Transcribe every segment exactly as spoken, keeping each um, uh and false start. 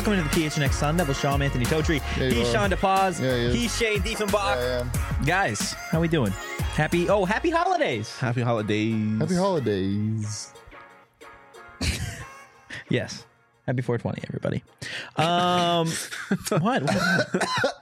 Welcome into the P H N X Sun Devil Show. I'm Anthony Totri. Yeah, He's are. Sean DePaz. Yeah, he is. He's Shane Diefenbach. Yeah, I Guys, how we doing? Happy, oh, happy holidays. Happy holidays. Happy holidays. Yes. Happy four twenty, everybody. Um, what? what?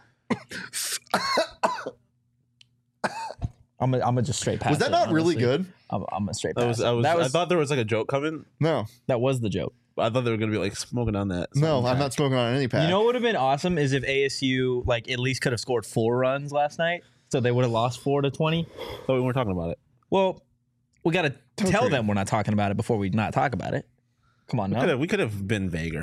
I'm gonna, I'm gonna just straight pass Was that it, not really honestly. good? I'm, I'm gonna straight That pass was, I it. was, that was, I thought there was like a joke coming. No. that was the joke. I thought they were gonna be like smoking on that. No, I'm not smoking on any pack. You know what would have been awesome is if A S U like at least could have scored four runs last night, so they would have lost four to twenty. But we weren't talking about it. Well, we got to tell true. them we're not talking about it before we not talk about it. Come on, We no. could have- We could have been vaguer.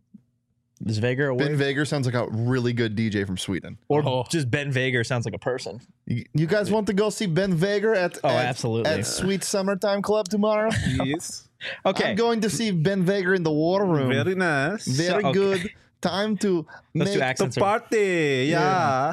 Is Vager a Ben word? Vager sounds like a really good D J from Sweden. Or Oh. just Ben Vager sounds like a person. You, you guys want to go see Ben Vager at, Oh, at, absolutely. at Sweet Summertime Club tomorrow? Yes. Okay. I'm going to see Ben Vager in the War Room. Very nice. Very So- okay. good. Time to Let's do make accents. The party. Yeah.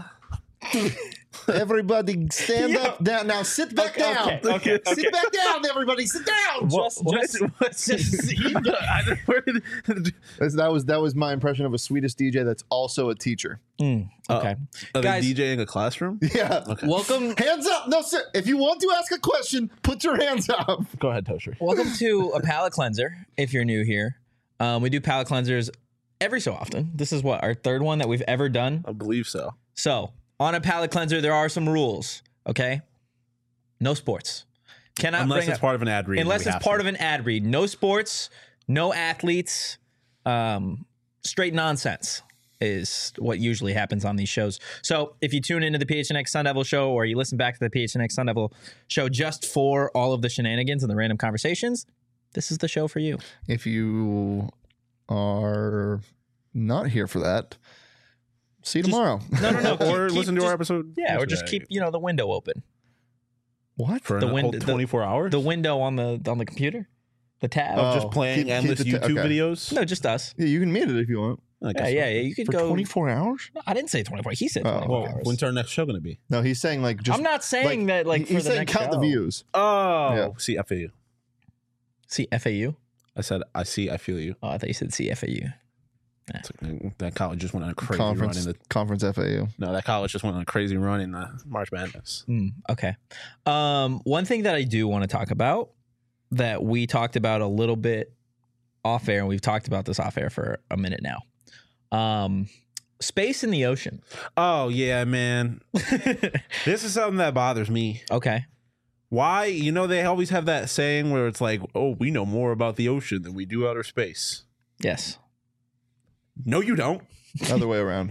everybody stand Yeah. up. Down. Now sit back Okay, down. okay, okay, okay. Sit back down, everybody. Sit down. Just, What? just, What? just- I- where did- That's- That was that was my impression of a Swedish D J that's also a teacher. Mm, okay. Are Guys- they DJing a classroom? Yeah. Okay. Welcome, Hands up. No, sir. If you want to ask a question, put your hands up. Go ahead, Toaster. welcome to a palate cleanser. If you're new here, um, we do palate cleansers every so often. This is what our third one that we've ever done. I believe so. So on a palate cleanser, there are some rules. Okay, no sports. Cannot Unless bring it's up, part of an ad read. unless it's part of an ad read. No sports, no athletes. Um, straight nonsense is what usually happens on these shows. So if you tune into the P H N X Sun Devil show or you listen back to the P H N X Sun Devil show just for all of the shenanigans and the random conversations, this is the show for you. If you are not here for that, see you tomorrow. No, no, no. Or keep- keep listen to our just- episode. Yeah, or just yesterday. keep you know the window open. What? for the the wind- whole the- twenty-four hours. The window on the on the computer, the tab. Oh. Just playing keep- keep endless the ta- YouTube okay. videos. No, just us. Yeah, you can meet it if you want. I Yeah, guess yeah, so. yeah. You could For go. twenty-four hours? No, I didn't say twenty-four. He said Oh. twenty-four Well, hours. when's our next show going to be? No, he's saying like just. I'm not saying that like he- for he's the saying next count show. the views. Oh, Yeah. C F A U. See F A U. I said, I see, I feel you. Oh, I thought you said C F A U. It's like, that college just went on a crazy Conference run in the. conference F A U. No, that college just went on a crazy run in the March Madness. Mm, okay. Um, one thing that I do want to talk about that we talked about a little bit off air, and we've talked about this off air for a minute now. Um, space in the ocean. Oh yeah, man. This is something that bothers me. Okay. Why? You know, they always have that saying where it's like, "Oh, we know more about the ocean than we do outer space." Yes. No, you don't. Other way around.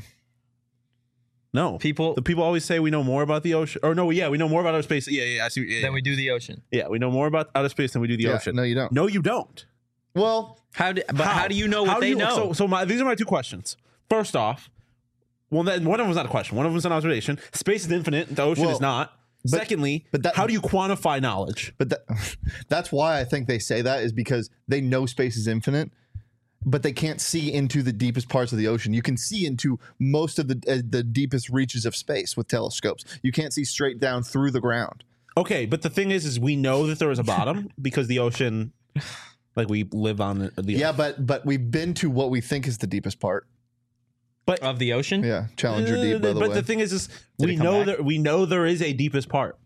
No, People the people always say we know more about the ocean. Or no, yeah, we know more about outer space. Yeah, yeah, I see. Yeah, than yeah. we do the ocean. yeah, we know more about outer space than we do the Yeah, ocean. no, you don't. No, you don't. Well, How do, but how, do you know what How do they you- know? So, so my, these are my two questions. First off, well, that, one of them is not a question. One of them is an observation. Space is infinite. The ocean Well, is not. but- Secondly, but that- how do you quantify knowledge? but that, that's why I think they say that is because they know space is infinite, but they can't see into the deepest parts of the ocean. You can see into most of the uh, the deepest reaches of space with telescopes. You can't see straight down through the ground. Okay, but the thing is, is we know that there is a bottom because the ocean, like we live on the. the Yeah, but but we've been to what we think is the deepest part. of the ocean? Yeah, Challenger Deep, by the but way. the thing is, is Did we it come know back? that we know there is a deepest part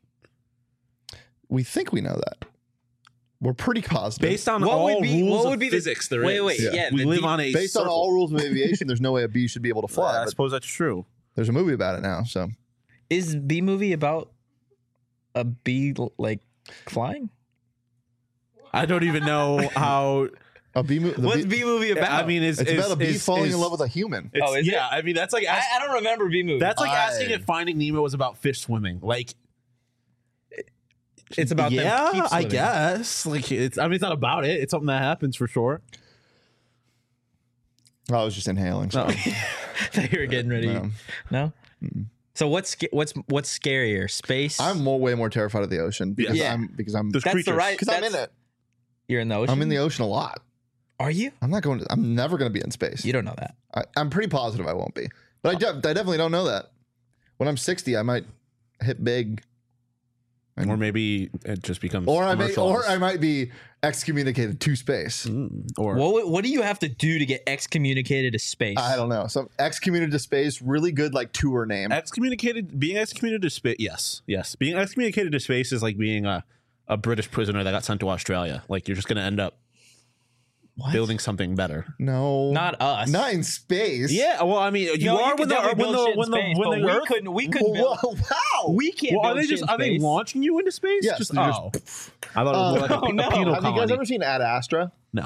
we think we know that. We're pretty positive. based on What all would be- rules what of would be the- physics. There is. wait, wait, yeah, we the live deep- on a Based on circle. all rules of aviation, there's no way a bee should be able to fly. I but suppose that's true. there's a movie about it now. So Is B movie about a bee like flying? I don't even know how. a bee movie. What's B movie about? I mean, is It's is, about a bee is- falling is- in love with a human. It's, Oh, is it? yeah, I mean that's like I, ask, I don't remember B movie. that's like I- asking if Finding Nemo was about fish swimming. Like, it's about them yeah, keep I swimming. guess. Like, it's. I mean, it's not about it. It's something that happens for sure. I was just inhaling. So. They were getting ready. No. No. So what's sca- what's what's scarier? Space. I'm more, way more terrified of the ocean because Yeah. I'm because I'm There's That's the creatures. right- because I'm in that's- it. You're in the ocean. I'm in the ocean a lot. Are you? I'm not going to. I'm never going to be in space. You don't know that. I, I'm pretty positive I won't be, but I, de- I definitely don't know that. When I'm sixty, I might hit big or maybe it just becomes Or I may, or commercialized. I might be excommunicated to space. or What what do you have to do to get excommunicated to space? I don't know. Some excommunicated to space, really good like tour name. excommunicated. Being excommunicated to space. Yes, yes. Being excommunicated to space is like being a a British prisoner that got sent to Australia. Like you're just going to end up What? building something better. No, Not us. not in space. Yeah, well, I mean, you No, are could when the definitely when build the shit in when the space, when but the we Earth- couldn't. We couldn't Whoa, build. wow. We can't. Well, are build they shit just in are they space. launching you into space? Yes, just, they're oh, just- I thought it was more like a, Oh, pe- no. a penal Have you guys colony. ever seen Ad Astra? No.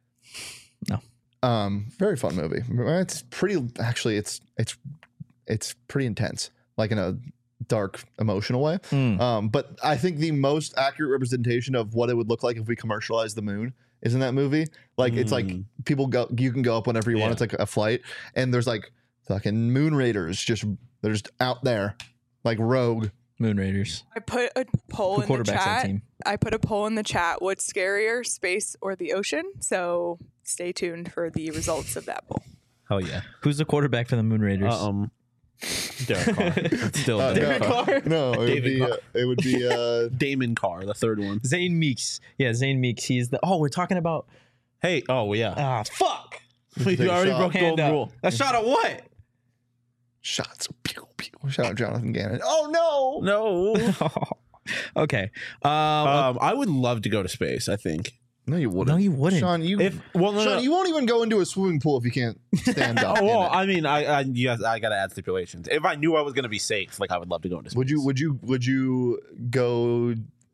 No. Um, very fun movie. It's pretty. Actually, it's it's it's pretty intense, like in a dark, emotional way. Mm. Um, but I think the most accurate representation of what it would look like if we commercialized the moon is in that movie. Like it's like Mm. people go, you can go up whenever you want. Yeah. It's like a flight, and there's like fucking moon raiders just they're just out there, like rogue. Moon Raiders. I put a poll Who in the quarterbacks that chat. team? I put a poll in the chat. What's scarier, space or the ocean? So stay tuned for the results of that poll. Hell yeah. Who's the quarterback for the Moon Raiders? Uh, um, Derek Carr. It's still Uh, Derek no, Carr. no, it would David be Carr. uh, it would be uh, Damon Carr, the third one. Zane Meeks. Yeah, Zane Meeks. He's the. Oh, we're talking about. Hey, oh yeah. Ah, fuck. you take a already shot. broke Hand golden up. rule. A shot of what? shots. Pew, pew. Shout out Jonathan Gannon. Oh no, No. Okay. Um, um, I would love to go to space. I think. no, you wouldn't. no, you wouldn't. Sean, you If well, no, Sean, no. you won't even go into a swimming pool if you can't stand up. Oh, in well, it. I mean, I, I, yes, I gotta add stipulations. If I knew I was gonna be safe, like I would love to go into space. Would you? Would you? Would you go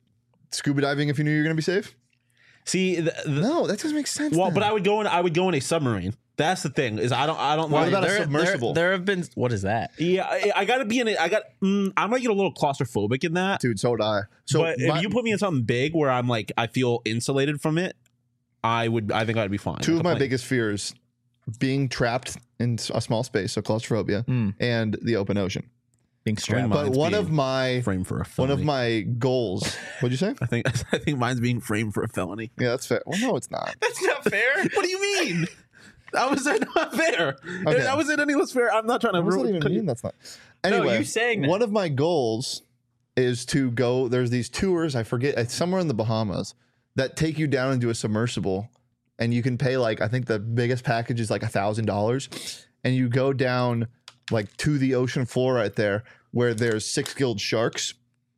scuba diving if you knew you were going to be safe? see? The, the, No, that doesn't make sense. well, then. but I would go in. I would go in a submarine. That's the thing. Is I don't. I don't. What like, about a there, submersible? There, there have been. What is that? Yeah, I, I gotta be in it. I got. Mm, I might get a little claustrophobic in that. dude, so would I. So but my- if you put me in something big where I'm like, I feel insulated from it, I would. I think I'd be fine. two Like of a my plane. biggest fears: being trapped in a small space, so claustrophobia, Mm. and the open ocean. Being strapped. Mine's But one being of my frame for a one felony. of my goals. What'd you say? I think. I think mine's being framed for a felony. Yeah, that's fair. Well, no, it's not. That's not fair. What do you mean? That was not fair. Okay. That wasn't any less fair. I'm not trying to. What does that ruin- even mean? That's not. No, Anyway, you saying that. one of my goals is to go. There's these tours. I forget. It's somewhere in the Bahamas that take you down into a submersible, and you can pay like I think the biggest package is like a thousand dollars, and you go down like to the ocean floor right there where there's six-gilled sharks,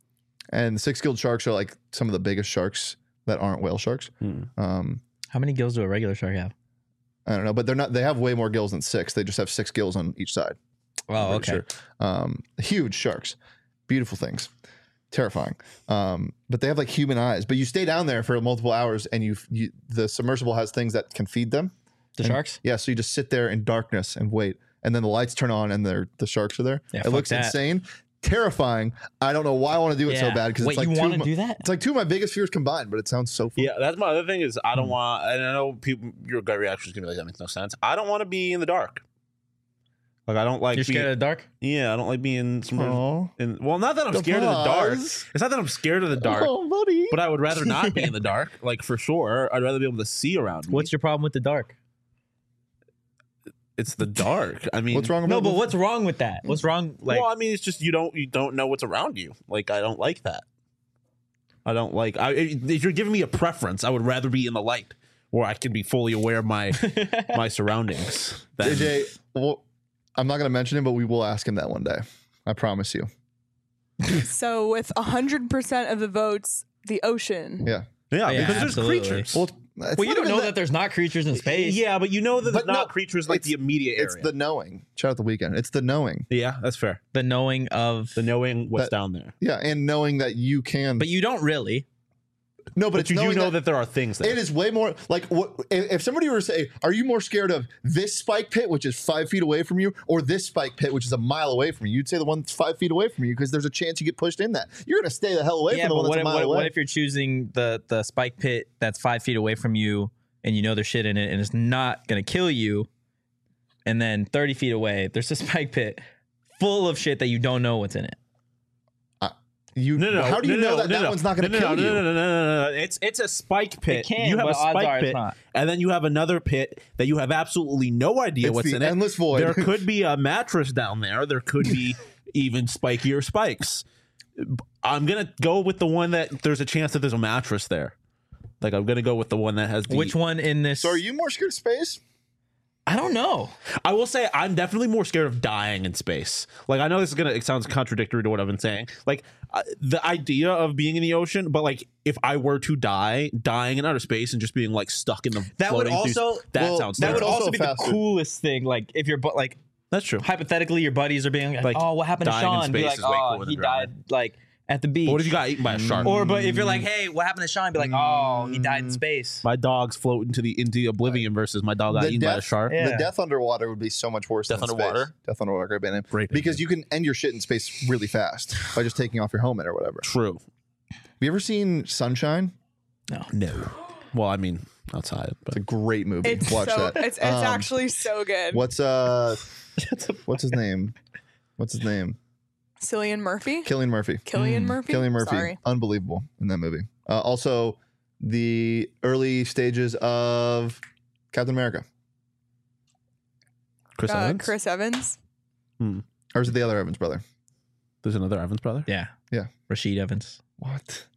and six-gilled sharks are like some of the biggest sharks that aren't whale sharks. Hmm. Um, How many gills do a regular shark have? I don't know, but they're not. They have way more gills than six. They just have six gills on each side. Oh, I'm okay. pretty sure. Um, huge sharks, beautiful things, terrifying. Um, but they have like human eyes. But you stay down there for multiple hours, and you, you the submersible has things that can feed them. The And- sharks? Yeah, so you just sit there in darkness and wait, and then the lights turn on, and they're the sharks are there. Yeah, it fuck looks that. insane, terrifying. I don't know why I want to do it so Yeah. bad because Wait, it's like you two want of to my- do that? It's like two of my biggest fears combined, but it sounds so fun. Yeah, that's my other thing is I Hmm. don't want. And I know people, your gut reaction is gonna be like that makes no sense. I don't want to be in the dark. Like I don't like. You're being, scared of the dark? Yeah, I don't like being. Sometimes Aw. in, well, not that I'm The scared of the dark. pause. It's not that I'm scared of the dark, Oh, buddy. but I would rather not be in the dark. Like for sure, I'd rather be able to see around me. What's your problem with the dark? It's the dark. I mean, What's wrong? No, about but what's wrong with that? What's wrong? Like, well, I mean, it's just you don't you don't know what's around you. Like I don't like that. I don't like. I, if you're giving me a preference, I would rather be in the light, where I can be fully aware of my my surroundings. than- J J, well, I'm not going to mention him, but we will ask him that one day. I promise you. So with one hundred percent of the votes, the ocean. Yeah. yeah, Yeah, because absolutely. there's creatures. Well, it's- it's well, you not don't even know that, there's not creatures in space. Yeah, but you know that But there's not no, creatures like it's- the immediate area. It's the knowing. Shout out the weekend. It's the knowing. yeah, that's fair. The knowing of. The knowing what's That- down there. Yeah, and knowing that you can. But you don't really. no, but, But it's you do knowing know that, there are things there. it is way more like what if, if somebody were to say, "Are you more scared of this spike pit, which is five feet away from you, or this spike pit, which is a mile away from you?" You'd say the one that's five feet away from you because there's a chance you get pushed in that. You're going to stay the hell away Yeah, from the but one what that's if, a mile what, away. what if you're choosing the the spike pit that's five feet away from you and you know there's shit in it and it's not going to kill you, and then thirty feet away there's a spike pit full of shit that you don't know what's in it? you, no, no, how do you no, know no, that no, that no. one's not going to no, no, kill no, you? No, no, no, no, no. It's it's a spike pit. It can, you have but a odds spike are it's pit, not. and then you have another pit that you have absolutely no idea It's what's the in it. endless void. There could be a mattress down there. There could be even spikier spikes. I'm gonna go with the one that there's a chance that there's a mattress there. Like I'm gonna go with the one that has the, Which one in this? So are you more scared of space? I don't know. I will say I'm definitely more scared of dying in space. Like I know this is gonna it sounds contradictory to what I've been saying. Like uh, the idea of being in the ocean, but like if I were to die, dying in outer space and just being like stuck in the That would floating through- also- that well, sounds That would It's terrible. also also be faster. the coolest thing. Like if you're but like That's true. hypothetically your buddies are being like, Like, oh, what happened to dying in Sean? Be space like, is way oh, cooler than he died drowning. like at the beach. But what if you got eaten by a shark? Or but if you're like, hey, what happened to Sean? Be like, oh, he Mm. died in space. My dog's float into the into oblivion versus my dog got The eaten by a death- shark. Yeah. The death underwater would be so much worse Death than underwater? space. Death underwater, great band name. Great band Because you can end your shit in space really fast by just taking off your helmet or whatever. True. Have you ever seen Sunshine? No. Well, I mean, outside, It's but a great movie. It's Watch so that. it's it's Um, actually so good. What's uh what's his name? What's his name? Cillian Murphy? Killian Murphy. Killian Murphy? Killian Murphy. Sorry. Unbelievable in that movie. Uh, also, the early stages of Captain America. Chris Uh, Evans. Chris Evans. Or is it the other Evans brother? There's another Evans brother. Yeah. Yeah. Rashid Evans. What?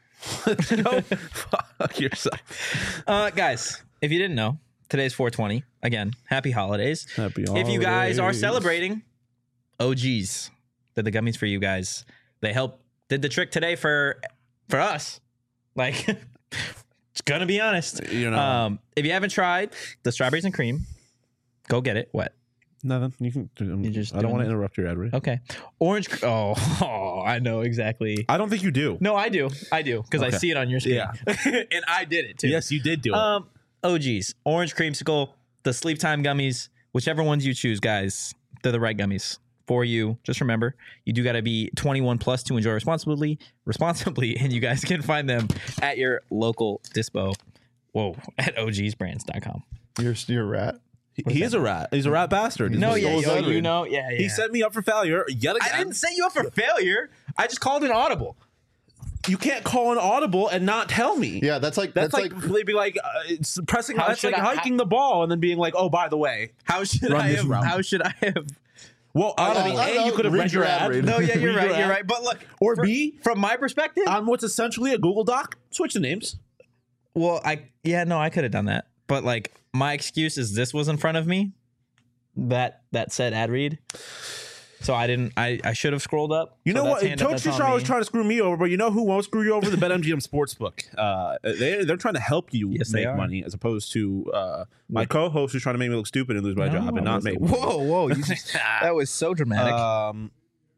Go fuck yourself. Uh, guys, if you didn't know, today's four twenty. Again, happy holidays. Happy If you guys are holidays. celebrating, O Gs did the gummies for you guys. They helped did the trick today for for us. Like, it's gonna be honest. you know, Um, if you haven't tried the strawberries and cream, go get it. What? nothing. You can. um, You're just I don't doing want to this? interrupt your ad read. Okay. Orange. cr- Oh, oh, I know exactly. I don't think you do. No, I do. I do because I Okay. see it on your screen. Yeah. and I did it too. Yes, you did do it. Um, O Gs, orange creamsicle, the sleep time gummies, whichever ones you choose, guys, they're the right gummies for you. Just remember, you do got to be twenty-one plus to enjoy responsibly, responsibly, and you guys can find them at your local dispo. Whoa, at O Gs brands dot com. You're you're a rat. he he is a rat. He's a rat bastard. He's No, a- yeah, Soul's yo, Edward. you know, yeah, yeah. He set me up for failure yet again. I didn't set you up for failure. I just called an audible. You can't call an audible and not tell me. Yeah, that's like That's, that's, like, like, they'd be like uh, it's pressing. How That's should like I- hiking the ball and then being like, "Oh, by the way." How should Run I this have? route. How should I have? Well, I Uh, mean, I A, don't you know. could have Read read your your ad ad. read. No, yeah, you're Read your right. You're ad. right. But look, Or for- B, from my perspective, on what's essentially a Google Doc, switch the names. well, I yeah, no, I could have done that. But like my excuse is this was in front of me. That that said ad read. So I didn't I, I should have scrolled up. You So know that's what? hand up, Coach that's on Fisher always me. trying to screw me over, but you know who won't screw you over? The BetMGM Sportsbook. Uh, they, they're trying to help you Yes, they make are. money as opposed to uh, my co-host who's trying to make me look stupid and lose my No, job and I not wasn't- make Whoa, whoa. You just, that was so dramatic. Um,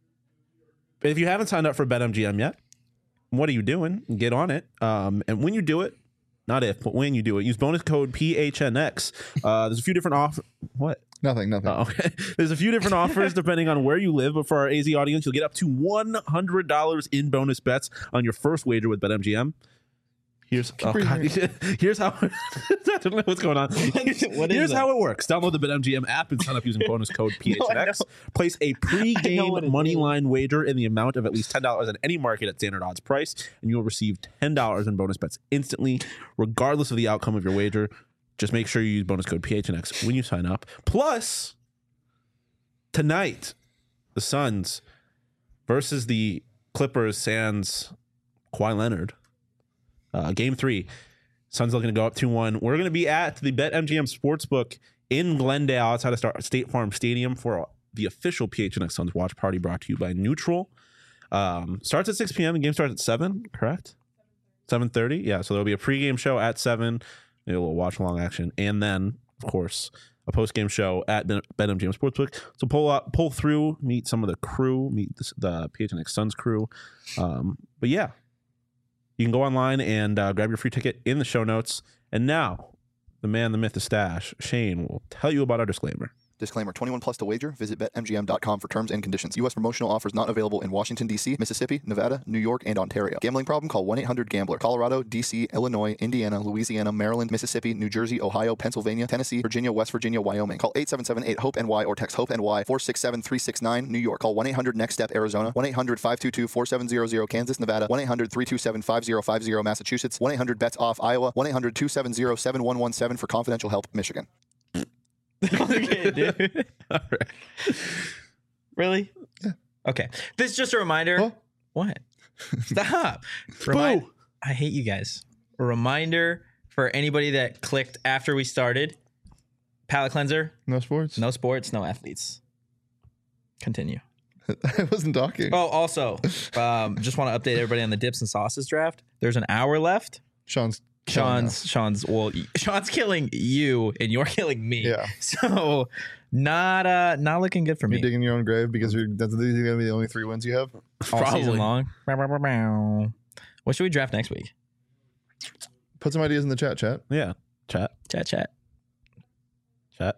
if you haven't signed up for BetMGM yet, what are you doing? Get on it. Um, and when you do it, not if, but when you do it, use bonus code P H N X. Uh, there's a few different offers. What? nothing, nothing. Oh, okay. There's a few different offers depending on where you live, but for our A Z audience, you'll get up to one hundred dollars in bonus bets on your first wager with BetMGM. Here's oh God, here's how I don't know what's going on. What is Here's that? how it works. Download the BetMGM app and sign up using bonus code P H N X. know. Place a I know pre-game what it money is. line wager in the amount of at least ten dollars at any market at standard odds price, and you'll receive ten dollars in bonus bets instantly, regardless of the outcome of your wager. Just make sure you use bonus code P H N X when you sign up. Plus, tonight, the Suns versus the Clippers sans Kawhi Leonard. Uh, game three. Suns looking to go up two one. We're going to be at the BetMGM Sportsbook in Glendale outside of Star- State Farm Stadium for the official P H N X Suns watch party brought to you by Neutral. Um, starts at six p.m. The game starts at seven, correct? seven thirty? Yeah, so there'll be a pregame show at seven, maybe a little watch-along action, and then, of course, a post-game show at Ben- BetMGM Sportsbook. So pull up, pull through, meet some of the crew, meet the, the P H N X Suns crew. Um, but yeah, you can go online and uh, grab your free ticket in the show notes. And now, the man, the myth, the stash, Shane, will tell you about our disclaimer. Disclaimer, twenty-one plus to wager. Visit bet M G M dot com for terms and conditions. U S promotional offers not available in Washington, D C, Mississippi, Nevada, New York, and Ontario. Gambling problem? Call one eight hundred gambler. Colorado, D C, Illinois, Indiana, Louisiana, Maryland, Mississippi, New Jersey, Ohio, Pennsylvania, Tennessee, Virginia, West Virginia, Wyoming. Call eight seven seven eight hope N Y or text HOPE-N Y four six seven three six nine. New York. Call one eight hundred next step Arizona. one eight hundred five two two four seven zero zero Kansas, Nevada. one eight hundred three two seven five zero five zero Massachusetts. one eight hundred bets off Iowa. one eight hundred two seven zero seven one one seven for confidential help, Michigan. Okay, dude. All right. Really? Yeah. Okay. This is just a reminder. Huh? What? Stop. Remind, I hate you guys. A reminder for anybody that clicked after we started. Palate cleanser. No sports. No sports. No athletes. Continue. I wasn't talking. Oh, also, um, just want to update everybody on the dips and sauces draft. There's an hour left. Sean's killing us. Sean's Sean's well, Sean's killing you, and you're killing me. Yeah. So not uh not looking good for You're me digging your own grave because you're, that's these are gonna be the only three wins you have. all Probably. season long. Bow, bow, bow, bow. What should we draft next week? Put some ideas in the chat, chat. Yeah. Chat. Chat, chat. Chat.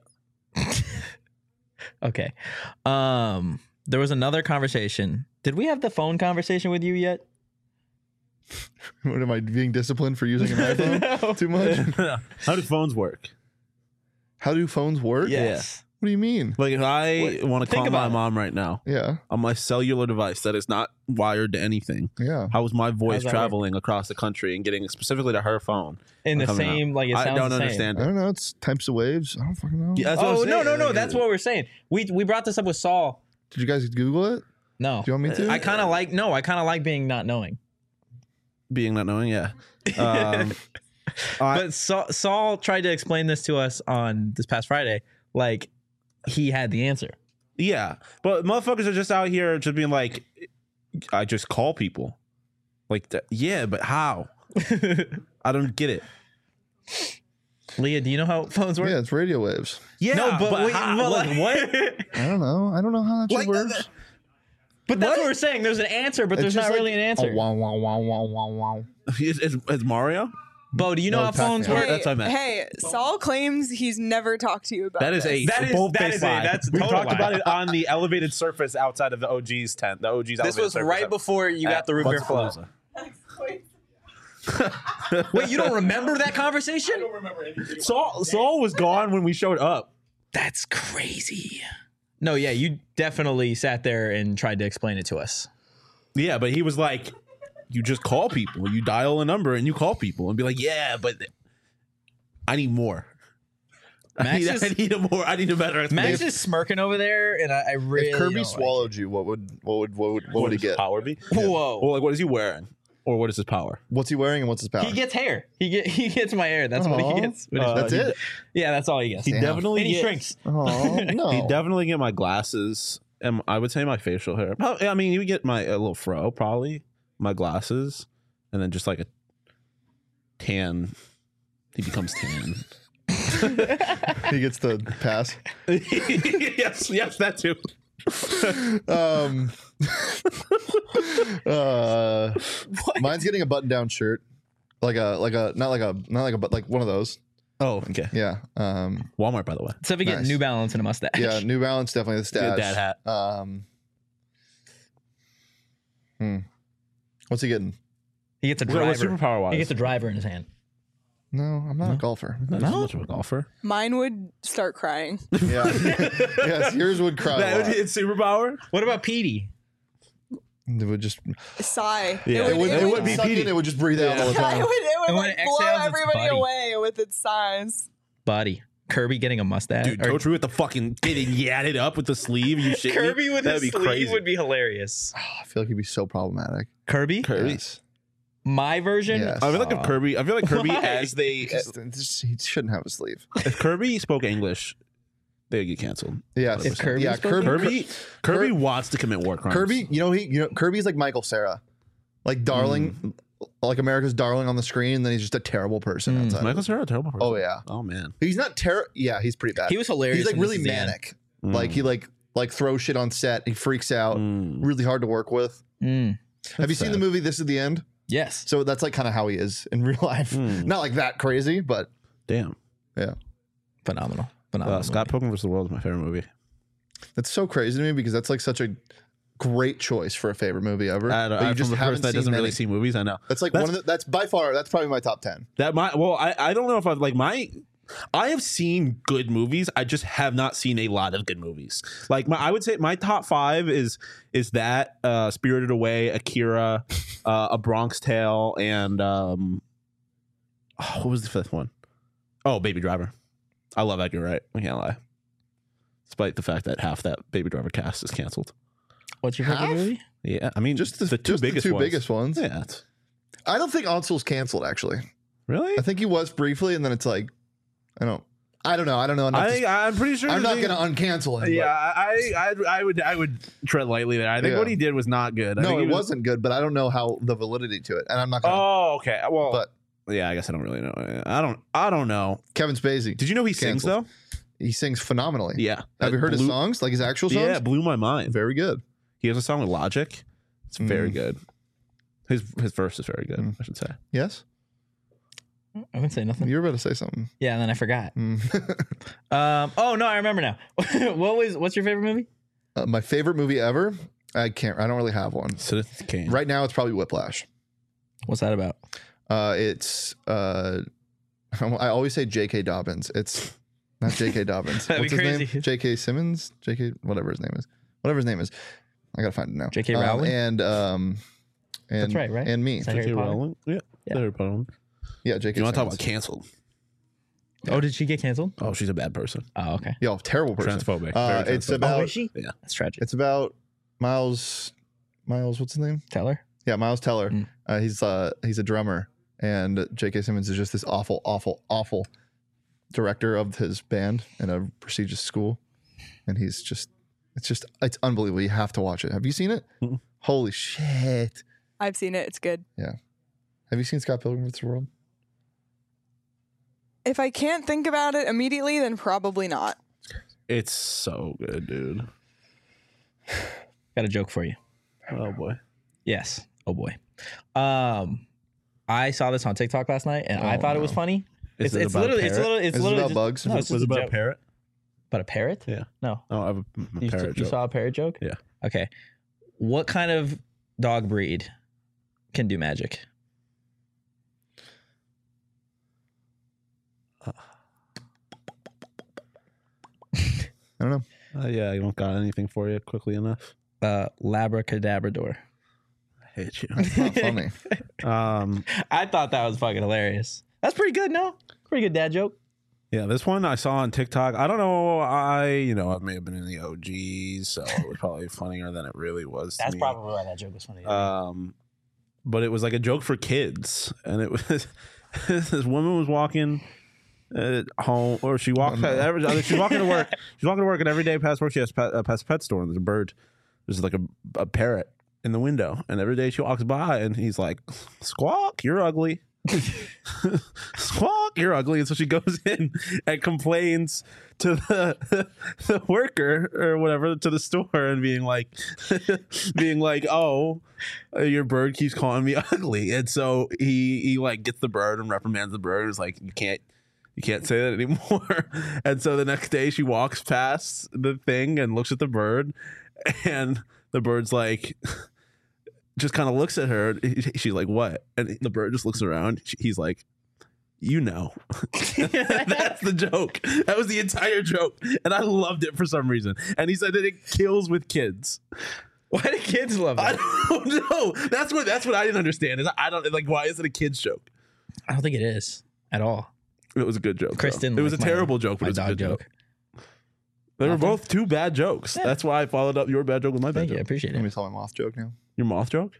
Okay. Um, there was another conversation. Did we have the phone conversation with you yet? What am I being disciplined for using an iPhone No. too much? How do phones work? How do phones work? Yes. What do you mean? Like if I Wait, want to think call my about it. mom right now Yeah, on my cellular device that is not wired to anything, yeah. how is my voice How's that traveling across the country and getting specifically to her phone? In the Coming same, out. like it sounds I don't the same. understand I it. don't know. It's types of waves. I don't fucking know. Yeah, that's what Oh I'm no, saying. no, no! Like, That's what we're saying. We we brought this up with Saul. Did you guys Google it? No, Do you want me to? I kind of like no. I kind of like being not knowing. being not knowing, yeah. Um, I- But Saul, Saul tried to explain this to us on this past Friday. Like he had the answer. yeah, but motherfuckers are just out here just being like, I just call people. Like, that. Yeah, but how? I don't get it. Leah, do you know how phones work? Yeah, it's radio waves. Yeah, No, but, we, how? but Like, like, what? I don't know. I don't know how that shit Like, works. But that's what we're saying. There's an answer, but It's there's just not like, really an answer. Oh, wow, wow, wow, wow, wow, wow. Is, is, is Mario? Bo, do you know No, how phones Pac-Man. work? That's what I meant. Hey, Saul claims he's never talked to you about That is this. a That is- bold that face is a- lie. that's a We total talked lie. about it on the elevated surface outside of the O G's tent. The O G's. This elevated was surface right at- before you at got the root beer flow. Buzzapalooza. Wait, you don't remember that conversation? Saul Saul was gone when we showed up. That's crazy. No, yeah, you definitely sat there and tried to explain it to us. Yeah, but he was like, you just call people. You dial a number and you call people and be like, yeah, but I need more. I Max need, is- I need a more. I need a better Max explanation. is smirking over there, and I, I really If Kirby don't swallowed you, what would what would what would what would he does his get? power be? Like it. Whoa. Or like, what is he wearing? Or what is his power? What's he wearing and what's his power? He gets hair. He get he gets my hair. That's what Aw. he gets. What is- Uh, That's he- it. yeah, that's all he gets. He Damn. definitely and he get, shrinks. Oh no. He definitely get my glasses, and I would say my facial hair. Probably- I mean, you would get my a little fro, probably my glasses, and then just like a tan. He becomes tan. He gets the pass. yes, yes, that too. Um, uh, mine's getting a button-down shirt, like a like a not like a not like a but like one of those. Oh, okay. Yeah. Um, Walmart, by the way. Except we get Nice. New Balance and a mustache. yeah. New Balance definitely the stash. Good dad hat. Um, hmm. What's he getting? He gets a What, driver. what superpower wise? He gets a driver in his hand. No, I'm not a golfer. Not as much of a golfer. Mine would start crying. Yeah. Yes, yours would cry. That A would lot. be its superpower. What about Petey? It would just. Sigh. Yeah. It would. It would be be suck in, Petey. It would just breathe out all the It time. would, it would And when like it blow exhales, it's everybody buddy. away with its sighs. Buddy. Kirby getting a mustache. Dude, Or Coach Rue with the fucking getting yatted up with the sleeve. You shit. Kirby with That'd his be sleeve crazy. would be hilarious. I feel like he'd be so problematic. Kirby? Kirby. Yes. My version? Yes. I feel like if Aw. Kirby, I feel like Kirby Why? as they, Just- just- he shouldn't have a sleeve. if Kirby spoke English, they'd get canceled. Yes. If Kirby yeah, spoke Kirby, Kirby, Kirby Kir- wants to commit war crimes. Kirby, you know he, you know Kirby's like Michael Sarah, like darling, like America's darling on the screen, and then he's just a terrible person Mm. outside. Michael Cera, a terrible person. Oh yeah, Oh man. he's not terrible. Yeah, he's pretty bad. He was hilarious. He's like in really This Is the End. manic. Like he like like throws shit on set. He freaks out. Mm. Really hard to work with. Mm. Have you seen sad. the movie This Is the End? Yes. So that's like kind of how he is in real life. Mm. Not like that crazy, but Damn. yeah, Phenomenal. Phenomenal. Uh, Scott movie. Pilgrim versus the World is my favorite movie. that's so crazy to me because that's like such a great choice for a favorite movie ever. I, but I, you just from a haven't person that seen doesn't really many. see movies, I know. That's like That's- one of the, that's by far that's probably my top ten. That my well, I, I don't know if I've like my I have seen good movies. I just have not seen a lot of good movies. Like my I would say my top five is is that uh Spirited Away, Akira, uh, A Bronx Tale, and um oh, what was the fifth one? Oh, Baby Driver. I love Edgar Wright. I can't lie. Despite the fact that half that Baby Driver cast is canceled. What's your favorite Half? movie? Yeah, I mean, Just the, the two just biggest the two ones. biggest ones. Yeah, it's- I don't think Ansel's canceled actually. really. I think he was briefly, and then it's like, I don't, I don't know. I don't know. enough I to- think I'm pretty sure. I'm that not he- going to uncancel him. Yeah, I, I, I would, I would tread lightly there. I think Yeah. what he did was not good. I but- no, think it he was- wasn't good, but I don't know how the validity to it, and I'm not going. to Oh, okay. Well, But yeah, I guess I don't really know. I don't, I don't know. Kevin Spacey, Did you know he sings Canceled. though? he sings phenomenally. Yeah. Have That you heard his blew- songs, like his actual songs? Yeah, it blew my mind. Very good. He has a song with Logic. It's very Mm. good. His his verse is very good. Mm. I should say. Yes, I wouldn't say nothing. you were about to say something. Yeah, and then I forgot. Mm. Um. Oh no, I remember now. What was? What's your favorite movie? uh, my favorite movie ever. I can't. I don't really have one. Citizen Kane. Right now, it's probably Whiplash. What's that about? Uh, it's. Uh, I always say J K. Dobbins. It's not J K. Dobbins. That'd be What's his crazy. name? J K. Simmons. J K. Whatever his name is. Whatever his name is. I gotta find it now. J K. Um, Rowling? and um, and That's right, right? And me. Is that J K. Harry Potter? Rowling. Yeah. Yeah. Harry Potter one. Yeah, J K. You want to talk Simmons. about canceled? Oh, did she get canceled? Oh, she's a bad person. Oh, okay. Yo, terrible person. Transphobic. Uh, Very it's transphobic. about. Oh, is she? Yeah. That's tragic. It's about Miles. Miles, what's his name? Teller. Yeah, Miles Teller. Mm. Uh, he's uh he's a drummer, and J K. Simmons is just this awful, awful, awful director of his band in a prestigious school, and he's just it's just it's unbelievable. You have to watch it. Have you seen it? Mm-mm. Holy shit! I've seen it. It's good. Have you seen Scott Pilgrim vs. the World? If I can't think about it immediately, then probably not. It's so good, dude. Got a joke for you. Oh boy. Yes. Oh boy. Um, I saw this on TikTok last night, and I Oh, thought it was no. funny. Is It's, it it's about a literally, it's parrot? literally, it's Is it literally about just- bugs? No, Was, it's was just it a about a joke. parrot? But a parrot? Yeah. No. Oh, I have a, a You, parrot you joke. saw a parrot joke? Yeah. Okay. What kind of dog breed can do magic? I don't know. Uh, yeah, you don't got anything for you quickly enough. Uh, Labracadabrador. I hate you. It's not funny. um, I thought that was fucking hilarious. That's pretty good, no? Pretty good dad joke. yeah, this one I saw on TikTok. I don't know. I, you know, I may have been in the O Gs, so it was probably funnier than it really was. To That's me. probably why that joke was funny. Um, but it was like a joke for kids, and it was this woman was walking uh, home, or she walked. Oh, no. every, she's walking to work. She's walking to work, and every day past work, she has to pet, uh, past a pet store, and there's a bird. There's like a, a parrot in the window, and every day she walks by, and he's like, "Squawk, you're ugly." Squawk, you're ugly. And so she goes in and complains to the, the worker or whatever, to the store, and being like, being like, oh, your bird keeps calling me ugly. And so he, he like gets the bird and reprimands the bird. He's like, you can't, you can't say that anymore. And so the next day she walks past the thing and looks at the bird, and the bird's like, just kind of looks at her. She's like, what? And the bird just looks around. He's like, you know. That's the joke. That was the entire joke. And I loved it for some reason. And he said that it kills with kids. Why do kids love I that? don't know. That's what that's what I didn't understand. Is I don't like why is it a kid's joke? I don't think it is at all. It was a good joke. Chris though. didn't It was like a my- terrible joke, but My it was a dog good joke. joke. They were Nothing? both two bad jokes. Yeah. That's why I followed up your bad joke with my bad Thank you. I joke. appreciate Let me it. tell my moth joke now. Your moth joke?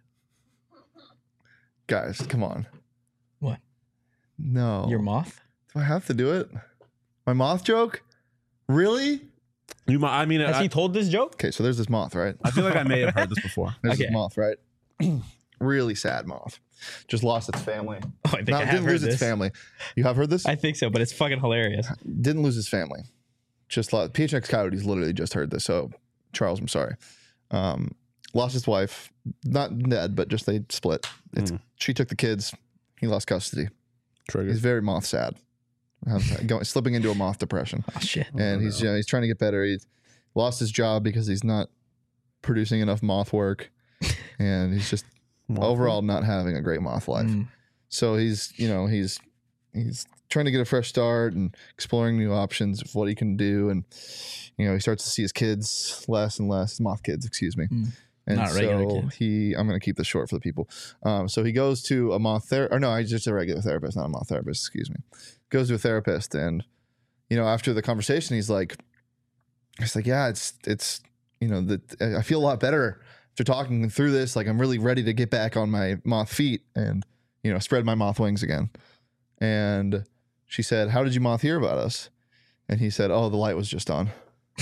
Guys, come on. What? No. Your moth? Do I have to do it? My moth joke? Really? You mo- I mean Has I, he told this joke? Okay, so there's this moth, right? I feel like I may have heard this before. There's Okay. this moth, right? Really sad moth. Just lost its family. Oh, I think Not, I have didn't heard lose this. its family. You have heard this? I think so, but it's fucking hilarious. Didn't lose his family. Just lost. P H X Coyotes literally just heard this. So, Charles, I'm sorry. Um, lost his wife. Not dead, but just they split. It's, Mm. She took the kids. He lost custody. Trigger. He's very moth sad. Have- going, slipping into a moth depression. Oh shit. And he's you know, he's trying to get better. He's lost his job because he's not producing enough moth work, and he's just overall not having a great moth life. Mm. So he's you know he's he's trying to get a fresh start and exploring new options of what he can do, and you know he starts to see his kids less and less, his moth kids, excuse me. Mm. And Not regular so kids. he, I'm going to keep this short for the people. Um, so he goes to a moth therapist, or no, he's just a regular therapist, not a moth therapist, excuse me. Goes to a therapist, and you know after the conversation, he's like, he's like, yeah, it's it's you know, that I feel a lot better after talking through this. Like, I'm really ready to get back on my moth feet and, you know, spread my moth wings again. And she said, how did you moth hear about us? And he said, oh, the light was just on.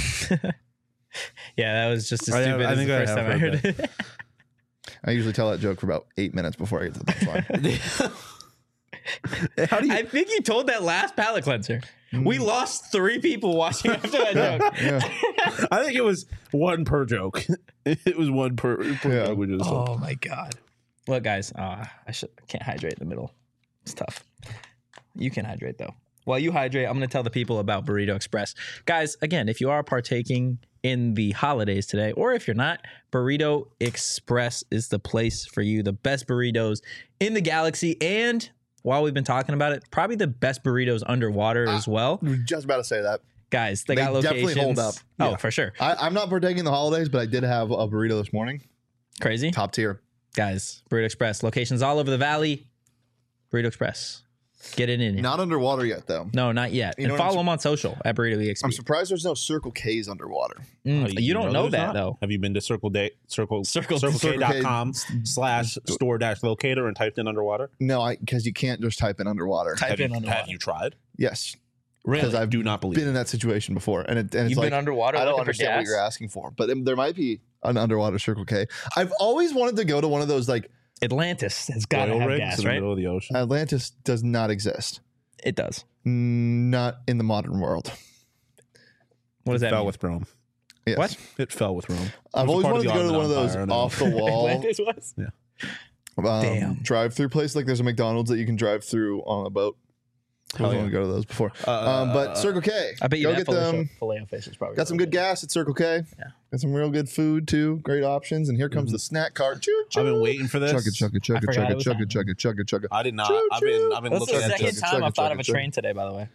Yeah, that was just as I- stupid I as think the I first have time I heard heard it. I usually tell that joke for about eight minutes before I get to the punchline. How do you? I think you told that last palate cleanser. Mm. We lost three people watching after that joke. Yeah. I think it was one per joke. It was one per, per Yeah. joke. We just Oh my god! Look, guys, uh, I should I can't hydrate in the middle. It's tough. You can hydrate though. While you hydrate, I'm going to tell the people about Burrito Express, guys. Again, if you are partaking in the holidays today, or if you're not, Burrito Express is the place for you. The best burritos in the galaxy, and while we've been talking about it, probably the best burritos underwater as well, I was just about to say that. guys. They, They got locations. definitely hold up. Oh, Yeah. for sure. I, I'm not partaking in the holidays, but I did have a burrito this morning. Crazy. Top tier. Guys, Burrito Express locations all over the valley. Burrito Express, get it in. here. Not underwater yet, though. No, not yet. You And know what I'm follow sur- them on social at Burrito E X P. I'm surprised there's no Circle K's underwater. Mm, Oh, you, don't know, there's that not? though. Have you been to Circle Day Circle Circle- Circle Circle K K. dot com slash store dash locator and typed in underwater? No, I because you can't just type in underwater. Type Have in you, underwater. have you tried? Yes, Really? because I've Do not believe. been in that situation before, and, it, and it's You've like been underwater I don't looking for understand what gas? you're asking for, but um, there might be an underwater Circle K. I've always wanted to go to one of those. Like, Atlantis has got to Oil have rigs gas, in the right? middle of the ocean. Atlantis does not exist. It does. Mm, Not in the modern world. What does It that fell mean? with Rome. Yes. What? It fell with Rome. I've It was always a part wanted to of go the to one of Ottoman those Empire, off the wall Atlantis was. um, Damn. drive-through place. Like, there's a McDonald's that you can drive through on a boat. I Hell was yeah. want to go to those before. Uh, um, but Circle K, I bet you go that get filet them. filet fish is probably Got some really good gas at Circle K. Yeah. Got some real good food too. Great options. And here comes the snack cart. Choo choo. I've been waiting for this. Chug it, chug it, chug I it, forgot chug it it, was chug on. it, chug it, chug it, chug it. I did not. Choo, I've been. I've been That's the looking at second this. chug time it, I've thought chug of a it, chug train today, by the way.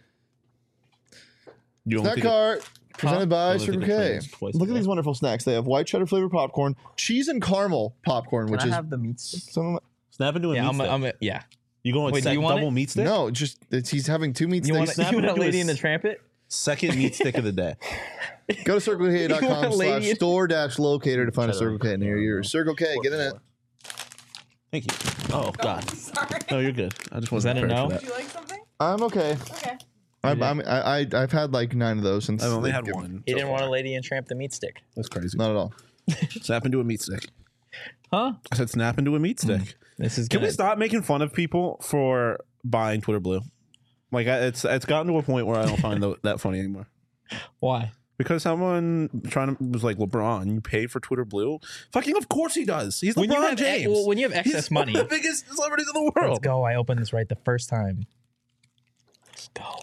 You only Snack think it- cart presented by only Circle think of K. trains twice Look a at day. these wonderful snacks. They have white cheddar flavored popcorn, cheese and caramel popcorn, which Can I is have the meat stick? some of my, Snap into a Yeah, meat I'm, stick. I'm, yeah. You going Wait, do sec- you want double it? meat stick? no, just it's, he's having two meat You want, sticks. snap you want a into a lady in the s- trampet? Second meat stick of the day. Go to circle k dot You want com a lady slash in- store dash locator to find a Cheddar. Circle K near you. Circle K, get in it. Thank you. Oh God. Sorry. No, you're good. I just Was wasn't that a prepared no? for Would you like something? I'm okay. Okay. I'm, I'm, I, I, I've had like nine of those since I've only they've had given- one. He so didn't want far. a lady and tramp the meat stick. That's crazy. Not at all. Snap into a meat stick. Huh? I said snap into a meat stick. This is Can we good. stop making fun of people for buying Twitter Blue? Like I, it's it's gotten to a point where I don't find tho- that funny anymore. Why? Because someone trying to was like, LeBron, you pay for Twitter Blue? Fucking of course he does. He's When you LeBron have James. well, when you have excess He's one money, of the biggest celebrities in the let's world. go. I opened this right the first time. Let's go.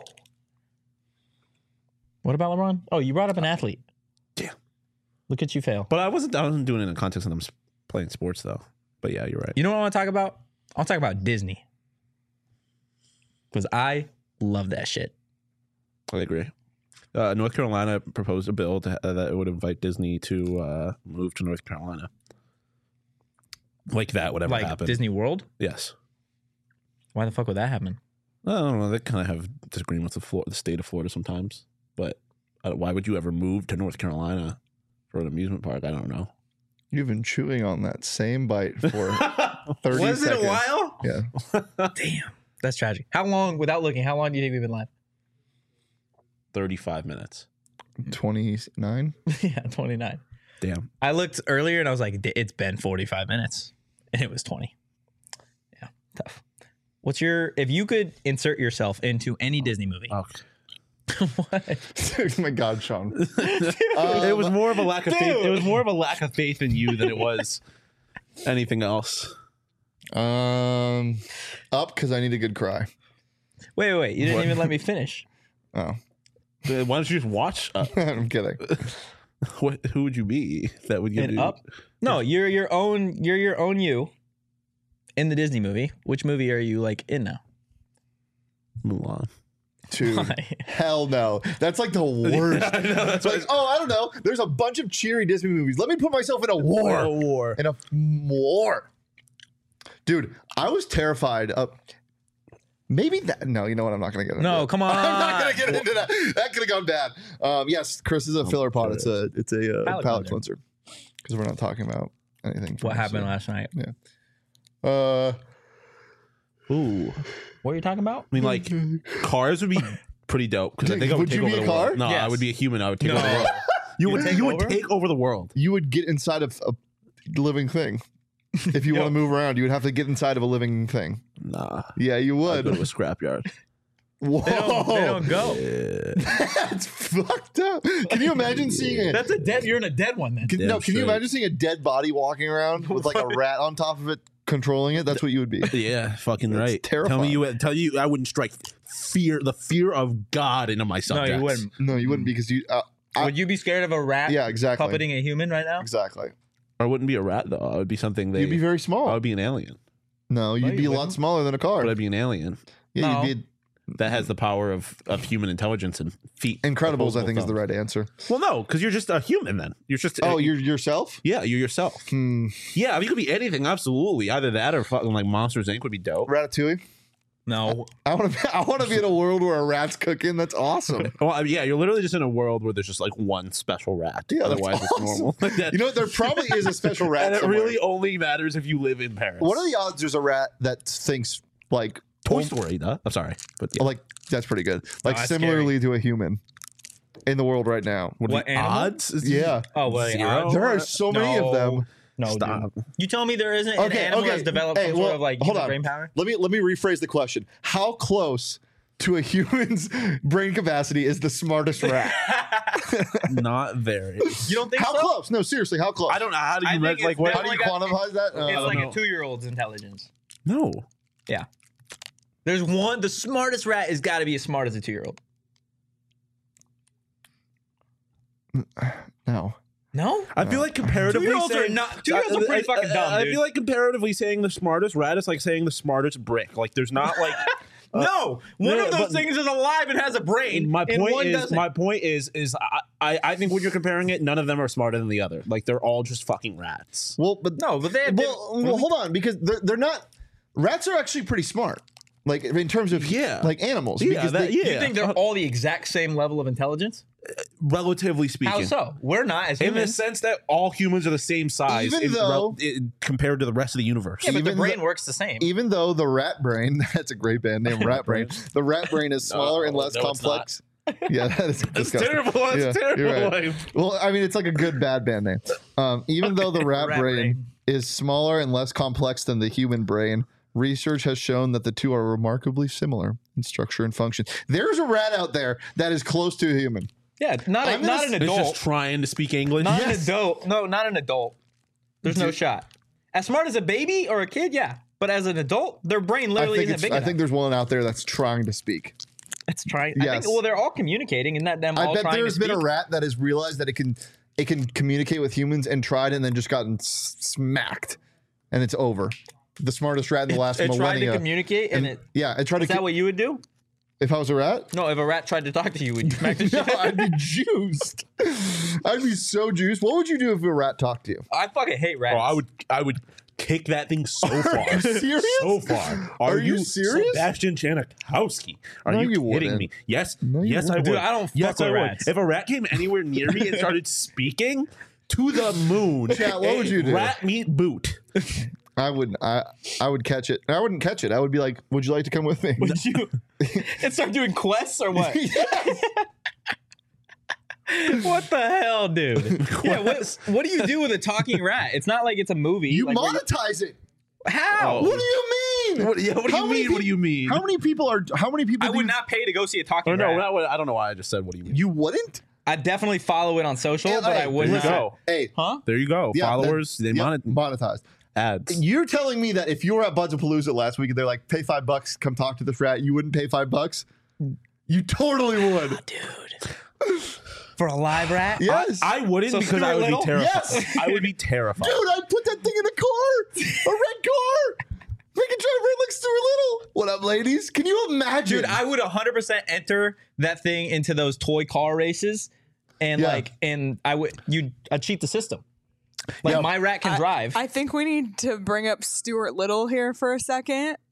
What about LeBron? Oh, you brought up an athlete. Yeah. Look at you fail. But I wasn't. I wasn't doing it in the context that I'm s- playing sports though. But yeah, you're right. You know what I want to talk about? I'll talk about Disney. Because I love that shit. I agree. Uh, North Carolina proposed a bill to, uh, that would invite Disney to uh, move to North Carolina. Like that would ever Like happen. Disney World? Yes. Why the fuck would that happen? I don't know. They kind of have disagreements with Florida, the state of Florida sometimes. But uh, why would you ever move to North Carolina for an amusement park? I don't know. You've been chewing on that same bite for thirty Was it seconds. a while? Yeah. Damn. That's tragic. How long, without looking, how long do you think we've been live? thirty-five minutes. twenty-nine. yeah, twenty-nine. Damn. I looked earlier and I was like, "D- it's been forty-five minutes. And it was twenty. Yeah, tough. What's your, if you could insert yourself into any Disney movie? Okay. What? Oh my God, Sean. it was more of a lack of faith. dude. It was more of a lack of faith in you than it was anything else. Um, up because I need a good cry. Wait, wait, wait. You didn't What? even let me finish. Oh, Uh, Why don't you just watch? Uh, I'm kidding. what, who would you be that would give And you up? No, you're your own, you're your own you in the Disney movie. Which movie are you like in now? Mulan? Dude, Why? hell no. That's like the worst. I know, that's It's like, oh, I don't know. There's a bunch of cheery Disney movies. Let me put myself in a war. war. In a war. Dude, I was terrified of Maybe that. No, you know what? I'm not going to get into No, it. come on. I'm not going to get into that. That could have gone bad. Um, yes, Chris is a filler pod. It's a it's a uh, Palate palate cleanser because we're not talking about anything. What from happened so- last night? Uh, Ooh. What are you talking about? I mean, like, cars would be pretty dope because I think I would, Would take you over be a the car? world. No, I Yes. would be a human. I would take No. over the world. You would take you would over? take over the world. you would get inside of a living thing. If you Yo. want to move around, you would have to get inside of a living thing. Nah. Yeah, you I'd go would. to a scrapyard. Whoa, They don't, they don't go. Yeah. that's fucked up. Can you imagine seeing it? That's a dead. You're in a dead one then. Can, Damn no, can you straight. imagine seeing a dead body walking around with like a rat on top of it controlling it? That's what you would be. Yeah, fucking That's right. terrifying. Tell me you tell you I wouldn't strike fear the fear of God into my No, subjects. you wouldn't. No, you wouldn't because you. Uh, I- Would you be scared of a rat? yeah, exactly. Puppeting a human right now? Exactly. I wouldn't be a rat though. I would be something they You'd be very I small. would be an alien. No, you'd you be a lot wouldn't. smaller than a car. But I'd be an alien Yeah, No. you'd be. that has the power of, of human intelligence and feet. Incredibles, I opposable think, is the thumbs. right answer. Well, no, because you're just a human then. You're just Oh, you're yourself? yeah, you're yourself. Hmm. Yeah, I mean, you could be anything. Absolutely, either that or fucking like Monsters Incorporated would be dope. Ratatouille? No. I want to. I want to be in a world where a rat's cooking. That's awesome. Well, I mean, yeah, you're literally just in a world where there's just like one special rat. Yeah, that's Otherwise, awesome. it's normal. That- You know what? There probably is a special rat. and it somewhere. really only matters if you live in Paris. What are the odds there's a rat that thinks like Toy oh, Story? Though I'm sorry, but yeah. like that's pretty good. Like that's similarly to a human in the world right now. What, are What the animal? odds? Yeah. Oh, well, Zero? odds? There are so many of No. them. No, Stop. dude. You tell me there isn't an Okay, animal okay. that's developed Hey, some well, sort of like hold human on. brain power? Let me let me rephrase the question. How close to a human's brain capacity is the smartest rat? Not very. You don't think How so? close? No, seriously, how close? I don't know how do I you think measure like it's what? How do you like a- quantify that? Uh, It's like know. a two-year-old's intelligence. No. Yeah. There's one. The smartest rat has got to be as smart as a two-year-old. no. No. I feel like comparatively Two-year-olds are saying not- two-year-olds are pretty I- I- fucking dumb, I dude. feel like comparatively saying the smartest rat is like saying the smartest brick. Like there's not like no. One yeah, of those but- things is alive and has a brain. my and point one is doesn't. my point is is I, I I think when you're comparing it, none of them are smarter than the other. Like they're all just fucking rats. Well, but No, but they have well, well, hold on, because they're, they're not. Rats are actually pretty smart, like in terms of Yeah. like animals. Yeah, because that- they, yeah. You think they're all the exact same level of intelligence? Relatively speaking. How so? We're not as In the humans. sense that all humans are the same size Even in- though- in- compared to the rest of the universe. Yeah, but the even brain the- works the same. even though the rat brain, that's a great band name, Rat Brain. The rat brain is smaller and No, less no, it's complex. Yeah, that is That's disgusting. terrible. That's Yeah, terrible. you're right. Well, I mean, it's like a good bad band name. Um, even though the rat, Rat brain, brain. is smaller and less complex than the human brain, research has shown that the two are remarkably similar in structure and function. There's a rat out there that is close to a human. Yeah, not a, I'm not gonna an It's adult. just trying to speak English. Not Yes. an adult. No, not an adult. There's no Dude. shot. As smart as a baby or a kid, yeah. But as an adult, their brain I literally think, isn't it's, big I enough. think there's one out there that's trying to speak. It's trying. I Yes. think, well, they're all communicating, and that them I all bet trying there's to been a speak. rat that has realized that it can it can communicate with humans and tried and then just gotten s- smacked, and it's over. The smartest rat in the last It tried to millennia. communicate, and, and- it. yeah, it tried Is to. that co- what you would do? if I was a rat, No, if a rat tried to talk to you, would you smack the no, shit? I'd be juiced. I'd be so juiced. What would you do if a rat talked to you? I fucking hate rats. Oh, I would I would kick that thing so far. you serious? So far. Are you serious? Sebastian Janikowski? Are No, you, you kidding wouldn't. me? Yes. No, you yes, I would. wouldn't. Dude, I don't fuck yes, with I would. rats. If a rat came anywhere near me and started speaking to the moon, Chat, what would you do? Rat meat boot. I would. I I would catch it. I wouldn't catch it. I would be like, "Would you like to come with me?" Would you? And start doing quests or what? Yes. What the hell, dude? Yeah, what, what do you do with a talking rat? It's not like it's a movie. You like, where monetize it. How? Oh. What do you mean? What, yeah, what do How you many mean? What do peop- you mean? How many people are? How many people? I do would you, not pay to go see a talking Oh, no, rat. not what, I don't know why I just said what do you mean. You wouldn't. I definitely follow it on social, Hey, but hey, I would there not. you go. Hey, Huh? There you go. yeah, Followers, that- they yep, monet monetized. ads. You're telling me that if you were at Buds of Palooza last week and they're like, "Pay five bucks, come talk to this rat," you wouldn't pay five bucks? You totally would. Dude. For a live rat? Yes. I wouldn't So because I Stuart would Little? be terrified. Yes. I would be terrified. Dude, I'd put that thing in a car, a red car. Make it drive right like Stuart Little. What up, ladies? Can you imagine? Dude, I would one hundred percent enter that thing into those toy car races, and Yeah. like, and I would you I'd cheat the system. Like Yeah. my rat can drive. I think we need to bring up Stuart Little here for a second.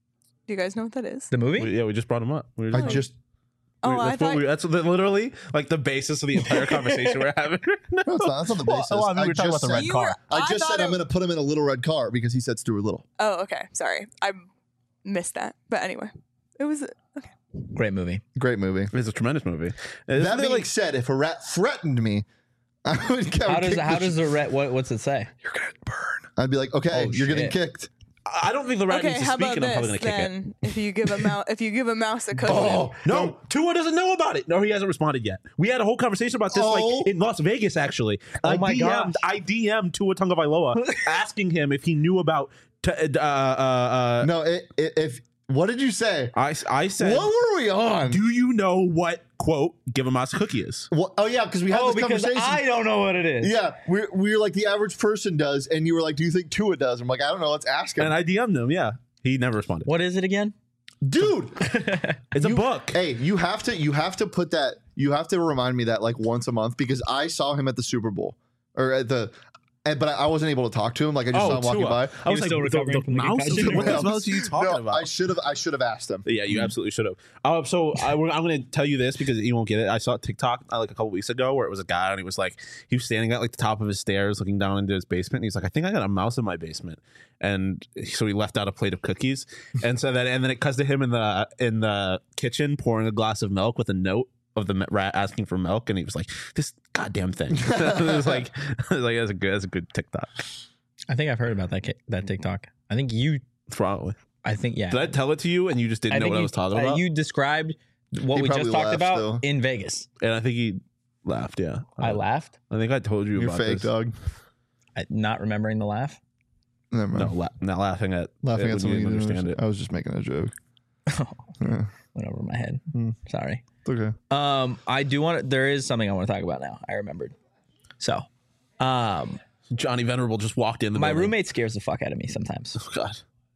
Do you guys know what that is? The movie? We- yeah, we just brought him up. We were I just- just Oh, we- I that's, what thought. we, that's what- literally like the basis of the entire conversation we're having. no, it's not, that's not the Well, basis. well, I mean, we were talking just about the red said- You car. were- I I just thought said it- I'm going to put him in a little red car because he said Stuart Little. Oh, okay. Sorry, I missed that. But anyway, it was okay. Great movie. Great movie. It's a tremendous movie. Isn't That there, being like said, if a rat threatened me, I would, I would How does kick how the does sh- the red? What what's it say? you're gonna burn? I'd be like, okay, Oh, you're getting shit. kicked. I don't think the rat Okay, needs to how speak, about and I'm probably this gonna kick it. then? If you give a mouse, if you give a mouse a cookie, Oh No, Tua doesn't know about it. No, he hasn't responded yet. We had a whole conversation about this Oh. like in Las Vegas, actually. I my D M'd, gosh. I D M'd Tua Tagovailoa asking him if he knew about. T- uh, uh, uh, No, it, it, if what did you say? I, I said, What were we on? do you know what, quote, give a mouse a cookie is? What, oh yeah, because we had Oh, this because conversation. I don't know what it is. yeah, we're we're like the average person does, and you were like, "Do you think Tua does?" I'm like, "I don't know. Let's ask him." And I D M'd him, yeah. He never responded. What is it again? Dude, It's a book. hey, you have to you have to put that. You have to remind me that like once a month because I saw him at the Super Bowl or at the. And, but I wasn't able to talk to him. Like I just saw him walking Tua. by. I He was was like, still the, recovering the from the mouse? concussion. What the hell are you talking No, about? I should have. I should have asked him. Yeah, you absolutely should have. Uh, so I, we're- I'm going to tell you this because you won't get it. I saw a TikTok uh, like a couple weeks ago where it was a guy and he was like, he was standing at like the top of his stairs looking down into his basement. And he's like, I think I got a mouse in my basement. And so he left out a plate of cookies. And so that, and then it cuts to him in the in the kitchen pouring a glass of milk with a note of the rat asking for milk. And he was like, this goddamn thing. it was like, it was like that's a good, that's a good TikTok. I think I've heard about that ki- that TikTok. I think you. Probably. I think yeah. Did I tell it to you and you just didn't I know think what I you, was talking uh, about? you described what He we just probably talked laughed about still. in Vegas. and I think he laughed. Yeah. I Uh, laughed, I think I told you You're about fake, this. dog. I, not remembering the laugh. Never No, mind. la- not laughing at Laughing it at when something you you didn't didn't understand it. I was just making a joke. Yeah, Went over my head. Hmm. Sorry. it's okay. Um, I do want. to There is something I want to talk about now. I remembered. So, um, Johnny Venerable just walked in the my building. roommate scares the fuck out of me sometimes. Oh God.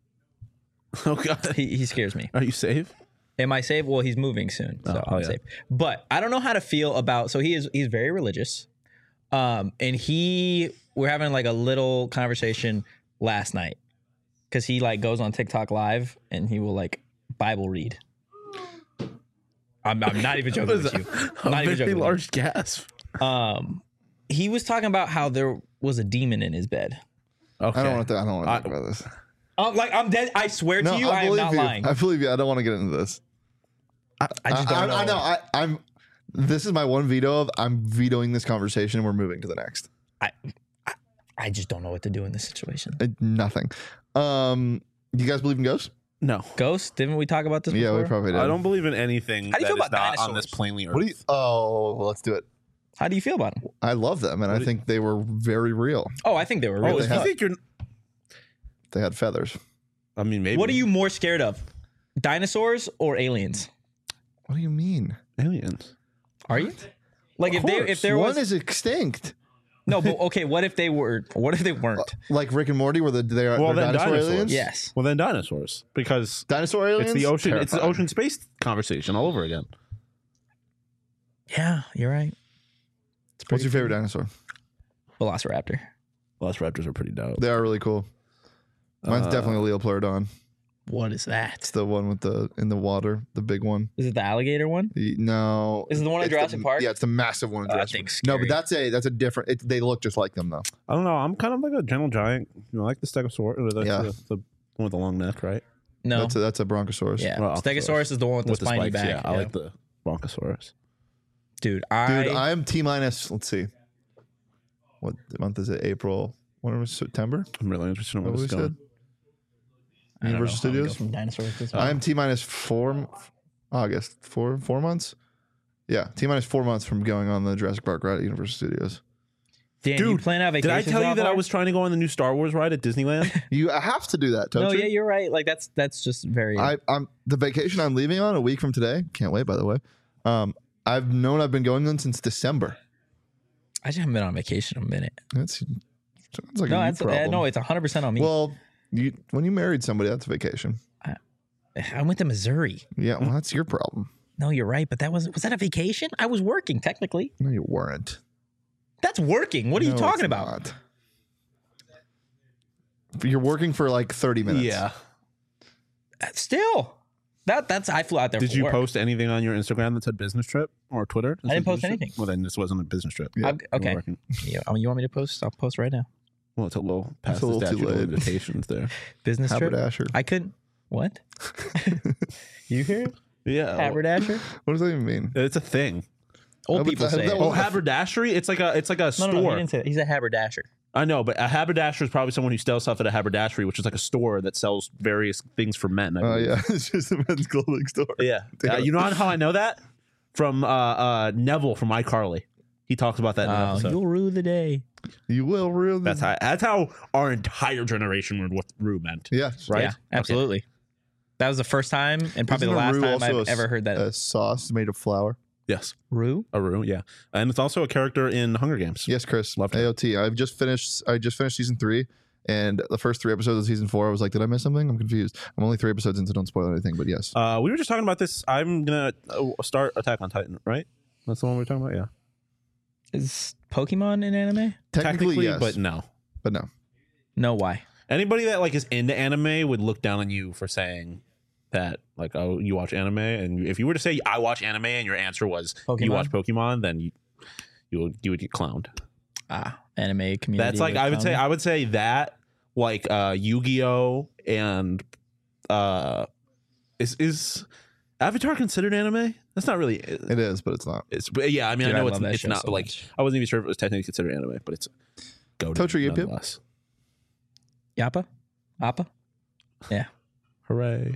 Oh God. He he scares me. Are you safe? Am I safe? Well, he's moving soon, so Oh, I'm yeah. safe. But I don't know how to feel about. So he is he's very religious, um, and he we're having like a little conversation last night because he like goes on TikTok live and he will like Bible read. I'm, I'm not even joking with you. I'm not a even very joking. With large gasp. you. Um, he was talking about how there was a demon in his bed. Okay. I don't want to. I don't want to I- talk about this. Um, like I'm dead. I swear No, to you, I I, am believe not you. lying. I believe you. I don't want to get into this. I just don't I, know. I know. I, I'm. This is my one veto of. I'm vetoing this conversation. and We're moving to the next. I, I, I just don't know what to do in this situation. Uh, nothing. Um. You guys believe in ghosts? No. Ghost? Didn't we talk about this Yeah, before? we probably did. I don't believe in anything How do you that feel is about not on this dinosaurs? plainly earth. What do you? Oh, well, let's do it. How do you feel about them? I love them, and I do- think they were very real. Oh, I think they were oh, really. if they you have- think you're They had feathers. I mean maybe What are you more scared of? Dinosaurs or aliens? What do you mean? aliens? Are you? Like if they course. if there One was is extinct. no, but okay, what if they were? What if they weren't? Like Rick and Morty, where the, they are Well, they're then dinosaur dinosaurs. aliens. Yes. Well then dinosaurs. Because Dinosaur aliens. it's the ocean it's the Terrifying. ocean space conversation all over again. Yeah, you're right. What's your favorite dinosaur? Velociraptor. Velociraptors are pretty dope. They are really cool. Mine's Uh, definitely a Leopleurodon. What is that? It's the one with the in the water, the big one. Is it the alligator one? The- No, Is it the one in it's Jurassic the- Park? Yeah, it's the massive one in Oh, that Jurassic thing's Park. No, but scary. that's a that's a different. It, they look just like them though. I don't know. I'm kind of like a gentle giant. You know, like the stegosaurus or the, Yeah. the, the one with the long neck, right? No. That's a that's a Bronchosaurus. yeah. Well, Stegosaurus is the one with the with the spiny spikes. back. Yeah, I like the bronchosaurus. Dude, I, Dude, I am T minus. Let's see. What month is it? April. When was September? I'm really interested in What where we this is going. said? I don't know Universal how we go Studios? from dinosaurs to I am T minus four. August four four months. Yeah, T minus four months from going on the Jurassic Park ride at Universal Studios. Dan, you Dude, plan out Did I vacations tell you out that I there? was trying to go on the new Star Wars ride at Disneyland? You have to do that. Don't No, you? yeah, you're right. Like that's that's just very. I, I'm the vacation I'm leaving on a week from today. Can't wait, by the way. Um, I've known I've been going on since December. I just haven't been on vacation in a minute. That's sounds like No, a you that's uh, problem. no, it's hundred percent on me. Well, you when you married somebody, that's a vacation. I went to Missouri. Yeah, well, that's your problem. No, you're right, but that was was that a vacation? I was working technically. No, you weren't. That's working. What are you No, talking it's about? not. You're working for like thirty minutes. yeah. Still, that that's I flew out there. Did for you work. post anything on your Instagram that said business trip or Twitter? I didn't post Business trip? anything. Well, then this wasn't a business trip. Yeah. I'm- You were okay. working. Yeah, I mean, you want me to post? I'll post right now. Well, it's a little past a the little too statute of late. limitations there. Business trip. Haberdasher. I couldn't. What? You hear it? Yeah. Haberdasher? What does that even mean? It's a thing. Old No, but people that- say that it. Oh, was- haberdashery. It's like a it's like a No, store. no, no, he didn't say that. He's a haberdasher. I know, but a haberdasher is probably someone who sells stuff at a haberdashery, which is like a store that sells various things for men. I Oh believe. yeah, it's just a men's clothing store. Yeah. Uh, you know how I know that? From uh, uh, Neville from iCarly. He talks about that in an Oh, episode. you'll rue the day. You will really. That's how that's how our entire generation learned what Rue meant. Yeah, Right? Yeah, absolutely. That was the first time and probably Isn't the a last roux time also I've a s- ever heard that. A sauce made of flour. Yes. Rue? A Rue, yeah. And it's also a character in Hunger Games. Yes, Chris. Loved it. A O T. I've just finished. I just finished season three, and the first three episodes of season four. I was like, did I miss something? I'm confused. I'm only three episodes in, so don't spoil anything. But yes, Uh, we were just talking about this. I'm gonna uh, start Attack on Titan, right? That's the one we were talking about. Yeah, Is Pokemon in anime? technically, yes, but no. but no. No, why? Anybody that like is into anime would look down on you for saying that, like, oh, you watch anime, and if you were to say I watch anime, and your answer was Pokemon? you watch Pokemon, then you you would you would get clowned. Ah, anime community. That's like I would say I would say that like uh, Yu-Gi-Oh and uh, is is Avatar considered anime? That's not really. It is, but it's not. It's but yeah. I mean, Dude, I know I it's love that it's show not. so but like much. I wasn't even sure if it was technically considered anime, but it's go Totri, yip, yip. nonetheless. Yappa? Appa? Yeah. Hooray!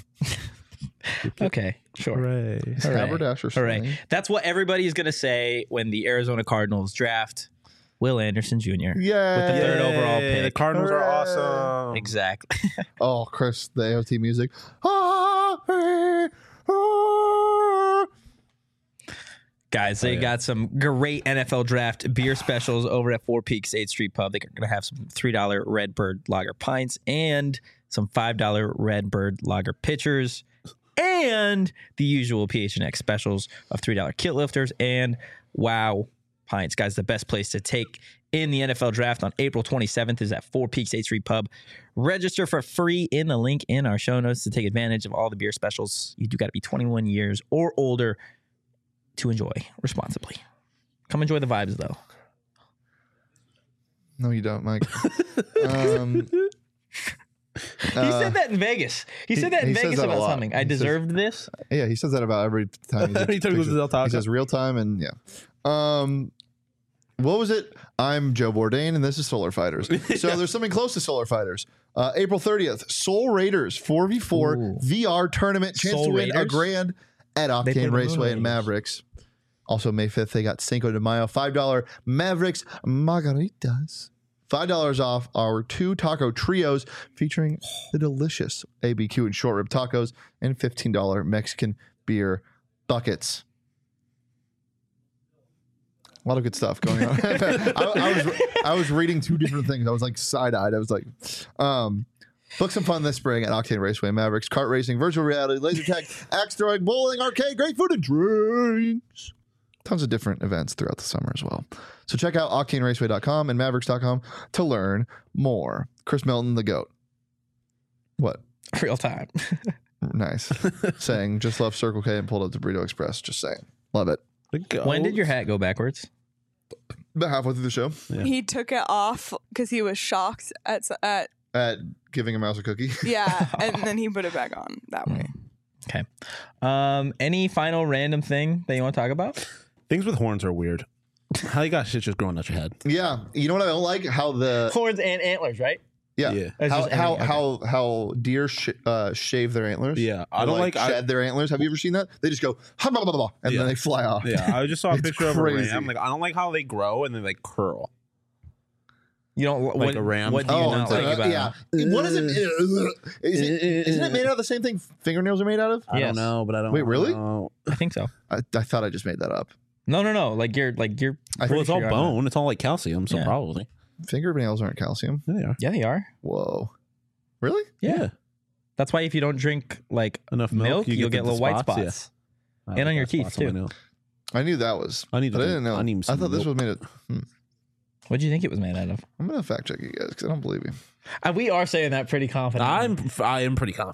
Okay, sure. Hooray! Hooray. Haberdasher Hooray. slang. That's what everybody's going to say when the Arizona Cardinals draft Will Anderson Junior Yeah. With the third Yay, overall The pick. Cardinals are Hooray. awesome. Exactly. Oh, Chris, the A O T music. Ah, eh, ah. Guys, they Oh, yeah. got some great N F L draft beer specials over at Four Peaks eighth Street Pub. They're going to have some three dollar Redbird Lager pints and some five dollar Redbird Lager pitchers and the usual P H N X specials of three dollar kit lifters and wow pints. Guys, the best place to take in the N F L draft on April twenty-seventh is at Four Peaks eighth Street Pub. Register for free in the link in our show notes to take advantage of all the beer specials. You do got to be twenty-one years or older to enjoy responsibly. Come enjoy the vibes, though. No, you don't, Mike. um, He said that in Vegas. He said that in he says Vegas that a about lot. something. I He says- deserved this. Yeah, he says that about every time. He's Every time he goes to Del Taco. He says real time and yeah. Um, what was it? I'm Joe Bourdain and this is Solar Fighters. So there's something close to Solar Fighters. Uh, April thirtieth, Soul Raiders four v four Ooh. V R tournament. Chance Soul to win a Raiders? grand at They play Octane the Raceway Moon and Raiders. Mavericks. Also May fifth, they got Cinco de Mayo, five dollar Mavericks Margaritas. five dollars off our two taco trios featuring the delicious A B Q and short rib tacos and fifteen dollar Mexican beer buckets. A lot of good stuff going on. I, I was I was reading two different things. I was like side-eyed. I was like, um, book some fun this spring at Octane Raceway, Mavericks, kart racing, virtual reality, laser tag, axe throwing, bowling, arcade, great food, and drinks. Tons of different events throughout the summer as well. So check out octane raceway dot com and mavericks dot com to learn more. Chris Melton, the GOAT. What? Real time. Nice. Saying, just left Circle K and pulled up the Burrito Express. Just saying. Love it. When did your hat go backwards? About halfway through the show Yeah. He took it off because he was shocked at s- at at giving a mouse a cookie. yeah, and then he put it back on that way. Okay. Um, any final random thing that you want to talk about? Things with horns are weird. How you got shit just growing out your head? Yeah. You know what I don't like? How the Horns and antlers, right? yeah, Yeah. That's how just how, any- okay. how how deer sh- uh, shave their antlers. Yeah, I Or, don't like. I, shed their antlers. Have you ever seen that? They just go "Ha, blah, blah, blah," and Yeah. then they fly off. yeah, I just saw a It's picture crazy. of a ram. Like I don't like how they grow and then they curl. You don't Like what, a ram. What do you Oh, not uh, like about yeah. them? What is it? Is it? Isn't it made out of the same thing fingernails are made out of? I Yes. don't know, but I don't. Wait, really? know. I think so. I, I thought I just made that up. No, no, no. Like you're, like you're. I Well, think it's all you're on bone. It's all like calcium, so Yeah. probably. fingernails aren't calcium. Yeah, they are. Yeah, they are. Whoa. Really? Yeah. That's why if you don't drink like Enough milk, milk, you you'll get get the little white spots, yeah. spots. I And like on your that teeth, spots on my too. nails. I knew that was. I need to But I drink- didn't know. I I, need some thought this milk. was made of. Hmm. What do you think it was made out of? I'm gonna fact check you guys because I don't believe you. Uh, we are saying that pretty confident. I'm I am pretty confident.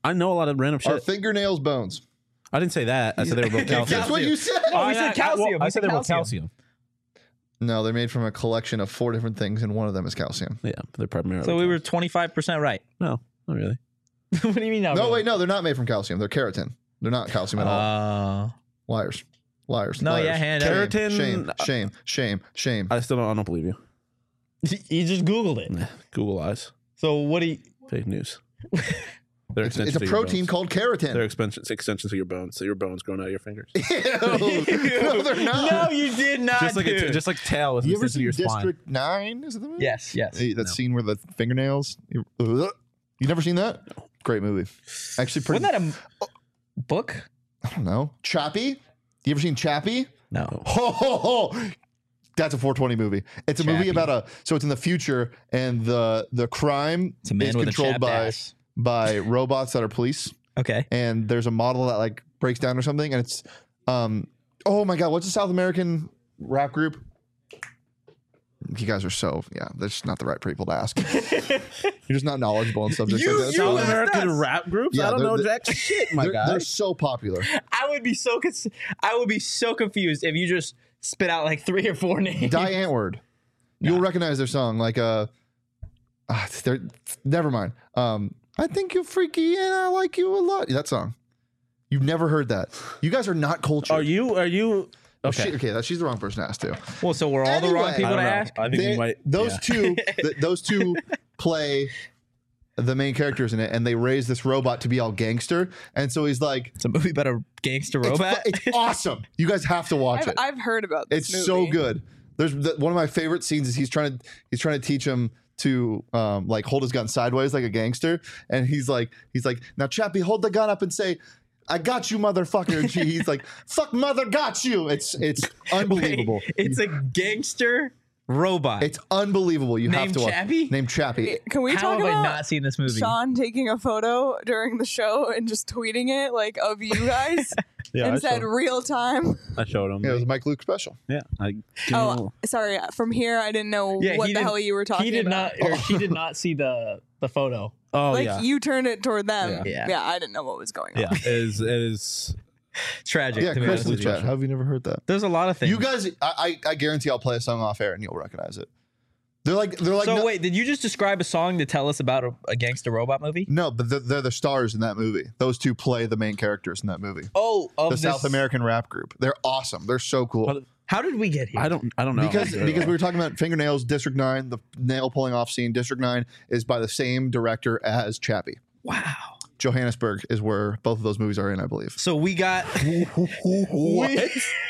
I know a lot of random Are shit. fingernails bones? I didn't say that. I said they were both calcium. That's what you said. Oh, we I- said I- calcium. well, We I said said they were both calcium. calcium. No, they're made from a collection of four different things, and one of them is calcium. Yeah, they're primarily. So we were calcium. twenty-five percent right. no, not really. What do you mean? Not No, really? wait, no, they're not made from calcium. They're keratin. They're not calcium at all. Uh, Liars. Liars. No, liars. yeah, hand Shame, up. Keratin- Shame, shame, shame, shame. I still don't. I don't believe you. you just Googled it. Nah, Google eyes. So what do you? Fake news. They're It's, extensions it's a of your protein bones. called They're keratin. extensions, extensions of your bones. So your bones growing out of your fingers. Ew. No, they're not. No, you did not. just like a, dude. just like tail with You ever extensions of seen your spine. District Nine? Is it the movie? yes, yes. Hey, that No. scene where the fingernails. You Ugh. You never seen that? Great movie. Actually, pretty. Wasn't that a book? I don't know. Chappie. You ever seen Chappie? No. Ho ho ho! That's a four twenty movie. It's a movie Chappie. about a. So it's in the future, and the the crime It's a man is with a controlled chapped by ass. by robots that are police. Okay. And there's a model that like breaks down or something, and it's um. Oh my god! What's the South American rap group? You guys are so yeah. That's just not the right people to ask. You're just not knowledgeable on subjects You- like that. you South asked American us. rap groups? Yeah, I don't they're- know they're- jack shit, my they're, guy. they're so popular. I would be so cons- I would be so confused if you just spit out like three or four names. Die Antwoord. You'll recognize their song. Like uh, ah, they're never mind. Um, I think you're freaky and I like you a lot. That song. You've never heard that. You guys are not cultured. Are you? Are you? Oh, Okay. she- okay, that she's the wrong person to ask too. Well, so we're all the wrong Anyway. people I to don't know. ask. I think They- we might. those yeah. two, th- those two play the main characters in it, and they raise this robot to be all gangster. And so he's like, It's a movie about a gangster it's, fu- robot. it's awesome. You guys have to watch I've, it. I've heard about this It's so movie. good. There's the, one of my favorite scenes is he's trying to he's trying to teach him to um, like hold his gun sideways like a gangster, and he's like he's like now Chappie, hold the gun up and say, "I got you, motherfucker." And she, he's like, "Fuck, mother, got you." It's it's unbelievable. It's a gangster robot. It's unbelievable. You have Named to watch. Chappie? Named Chappie. Can we How talk have about I not seen this movie? Sean taking a photo during the show and just tweeting it like of you guys Yeah, I and said showed, real time? I showed him. Yeah, it was a Mike Luke special. Yeah. I, Oh, sorry. From here, I didn't know Yeah, what he the didn't- hell you were talking he did about. not, or she did not see the the photo. oh like yeah. you turned it toward them. Yeah. Yeah. I didn't know what was going on. yeah. It is. It is. Tragic. Yeah, to be Chris honest in the with you. chat. How have you never heard that? There's a lot of things. You guys, I, I I guarantee I'll play a song off air and you'll recognize it. They're like they're like so no, wait, did you just describe a song to tell us about a, a gangster robot movie? no, but they're, they're the stars in that movie. Those two play the main characters in that movie. Oh, of The this, South American rap group. They're awesome. They're so cool. What- How did we get here? I don't. I don't know. Because because we were talking about fingernails, District Nine, the nail pulling off scene. District Nine is by the same director as Chappie. Wow. Johannesburg is where both of those movies are in, I believe. So we got What?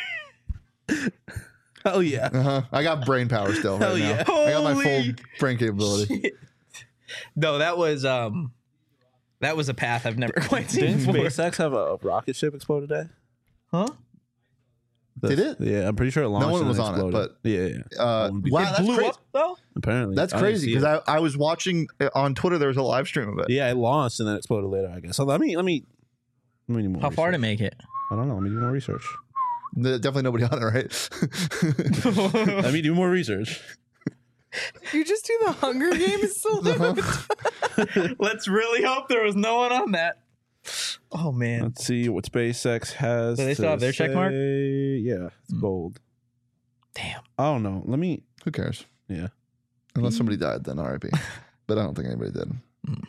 Hell yeah. Uh-huh. I got brain power still. Hell right now. yeah. I got my full Holy brain capability. no, that was um, that was a path I've never quite seen Didn't before. SpaceX have a rocket ship explode today? Huh? Did it? Yeah, I'm pretty sure it launched. one and was then on it, exploded. but- yeah, yeah. Uh, Wouldn't be- wow, It that's blew crazy. up though. Apparently, That's I didn't crazy see because it. I, I was watching uh, on Twitter. There was a live stream of it. yeah, it launched and then exploded later. I guess. So let me let me. Let me do more How far to research. make it? I don't know. Let me do more research. The- definitely nobody on it, right? Let me do more research. You just do the Hunger Games salute. Let's really hope there was no one on that. Oh man. Let's see what SpaceX has. Do they still to have their check mark? say. Yeah, it's Hmm. gold. Damn. Oh no. Let me. Who cares? Yeah. Unless somebody died, then R I P. But I don't think anybody did.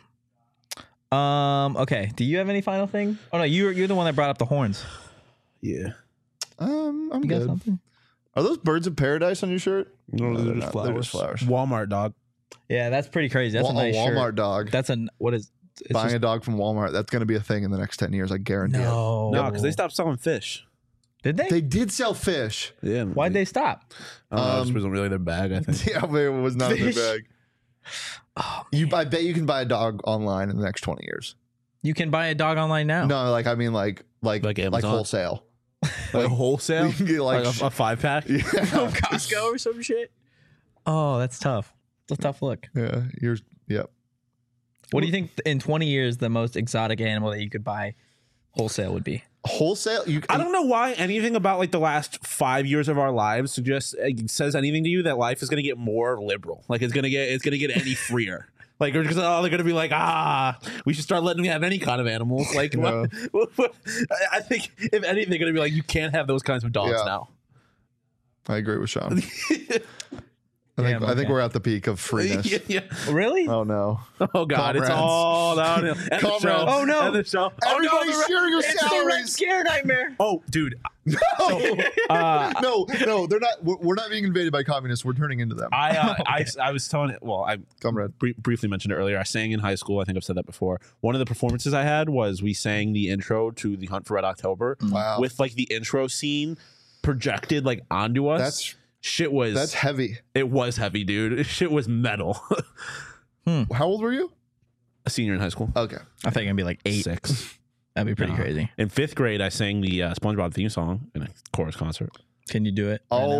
Um. Okay. Do you have any final thing? Oh no, you're you're the one that brought up the horns. Yeah. Um, I'm You got good. something? Are those birds of paradise on your shirt? No, No, they're, they're just not. They're just flowers. flowers. Walmart dog. Yeah, that's pretty crazy. That's Wa- a nice a Walmart shirt. dog. That's a what is? It's Buying just, a dog from Walmart. That's going to be a thing in the next ten years. I guarantee no. No, because they stopped selling fish. Did they? it. They did sell fish. Yeah. Why'd they stop? I don't know. It Um, wasn't really their bag. I think. Yeah, but it was not in Fish? their bag. Oh, You, I bet you can buy a dog online in the next twenty years. you can buy a dog online now. No, like I mean, like like Like like, Amazon? wholesale. Like You wholesale. can get like, Like, sh- a, a five pack. yeah, From Costco or some shit. Oh, that's tough. It's a tough look. yeah. You're yep. What do you think in twenty years the most exotic animal that you could buy wholesale would be? Wholesale. You. I don't know why anything about like the last five years of our lives suggests uh, says anything to you that life is going to get more liberal. Like it's going to get it's going to get any freer. Like, because oh, they're gonna be like, ah, we should start letting them have any kind of animals. Like, Yeah. what, what, I think if anything, they're gonna be like, you can't have those kinds of dogs Yeah. now. I agree with Sean. I think Damn, I think okay. we're at the peak of freeness. yeah, yeah. Really? Oh no! Oh god, it's Comrades. all downhill. End the Comrades. show. Oh, no. End the show. Everybody oh, no, share your It's the Red salaries. Scare Nightmare. Oh, dude. No, Uh, no, no. They're not. We're, we're not being invaded by communists. We're turning into them. I, uh, I I was telling it. Well, I Comrade. br- briefly mentioned it earlier. I sang in high school. I think I've said that before. One of the performances I had was we sang the intro to the Hunt for Red October Wow. with like the intro scene projected like onto us. That's shit was that's heavy. it was heavy, dude. Shit was metal. How old were you? A senior in high school, Okay. I think I'd be like eight. six. That'd be pretty No. crazy. In fifth grade, I sang the uh, SpongeBob theme song in a chorus concert. Can you do it? right now?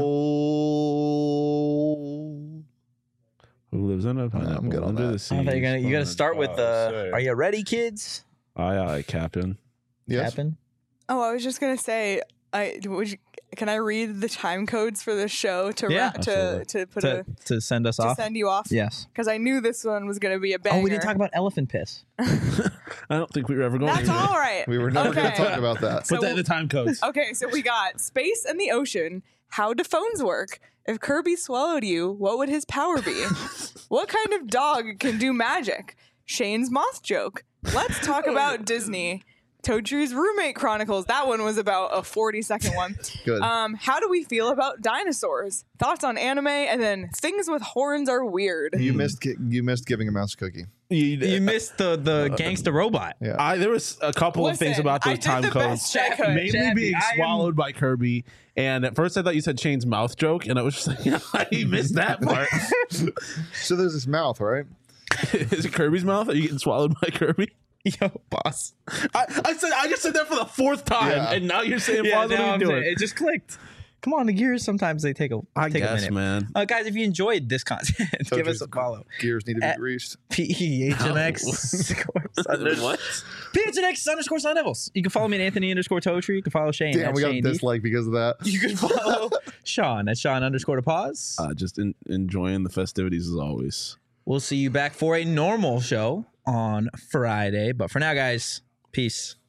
Oh. Who lives in a pineapple I'm good on under that. the sea? I think you're gonna, you got to start with the. SpongeBob, Are you ready, kids? Aye, aye, Captain. Yes. Captain? Oh, I was just gonna say, I would you, can I read the time codes for the show to Yeah. ra- to Absolutely. to put To, a to send us to off? send you off? Yes. Because I knew this one was gonna be a banger. Oh, we didn't talk about elephant piss. I don't think we were ever going That's to. all right. We were never going to Okay. talk about that. Put So- that in the time codes. Okay, so we got space and the ocean. How do phones work? If Kirby swallowed you, what would his power be? What kind of dog can do magic? Shane's moth joke. Let's talk about Disney. Toadtree's Roommate Chronicles. That one was about a forty second one. Good. Um, how do we feel about dinosaurs? Thoughts on anime, and then things with horns are weird. you missed. gi- You missed giving a mouse a cookie. You, You missed the, the gangster robot. Yeah. I there was a couple of things Listen, about I those did time the codes. best I could. Mainly Chappie, being I am- swallowed by Kirby. And at first I thought you said Shane's mouth joke, and I was just like, yeah, I missed that part. So there's this mouth, right? Is it Kirby's mouth? Are you getting swallowed by Kirby? Yo, boss. I, I said I just said that for the fourth time, Yeah. and now you're saying, Yeah, pause, what now are you I'm doing? saying, it just clicked. Come on, the gears sometimes they take a I take a guess, minute. man. Uh, guys, if you enjoyed this content, give us a follow. Gears need to be At- greased. P E H N X What? P H N X underscore Sun Devils. You can follow me at Anthony underscore Toadtree. You can follow Shane. Damn, at we got Shane D. disliked because of that. You can follow Sean at Sean underscore to pause. Uh, just in, enjoying the festivities as always. We'll see you back for a normal show on Friday. But for now, guys, peace.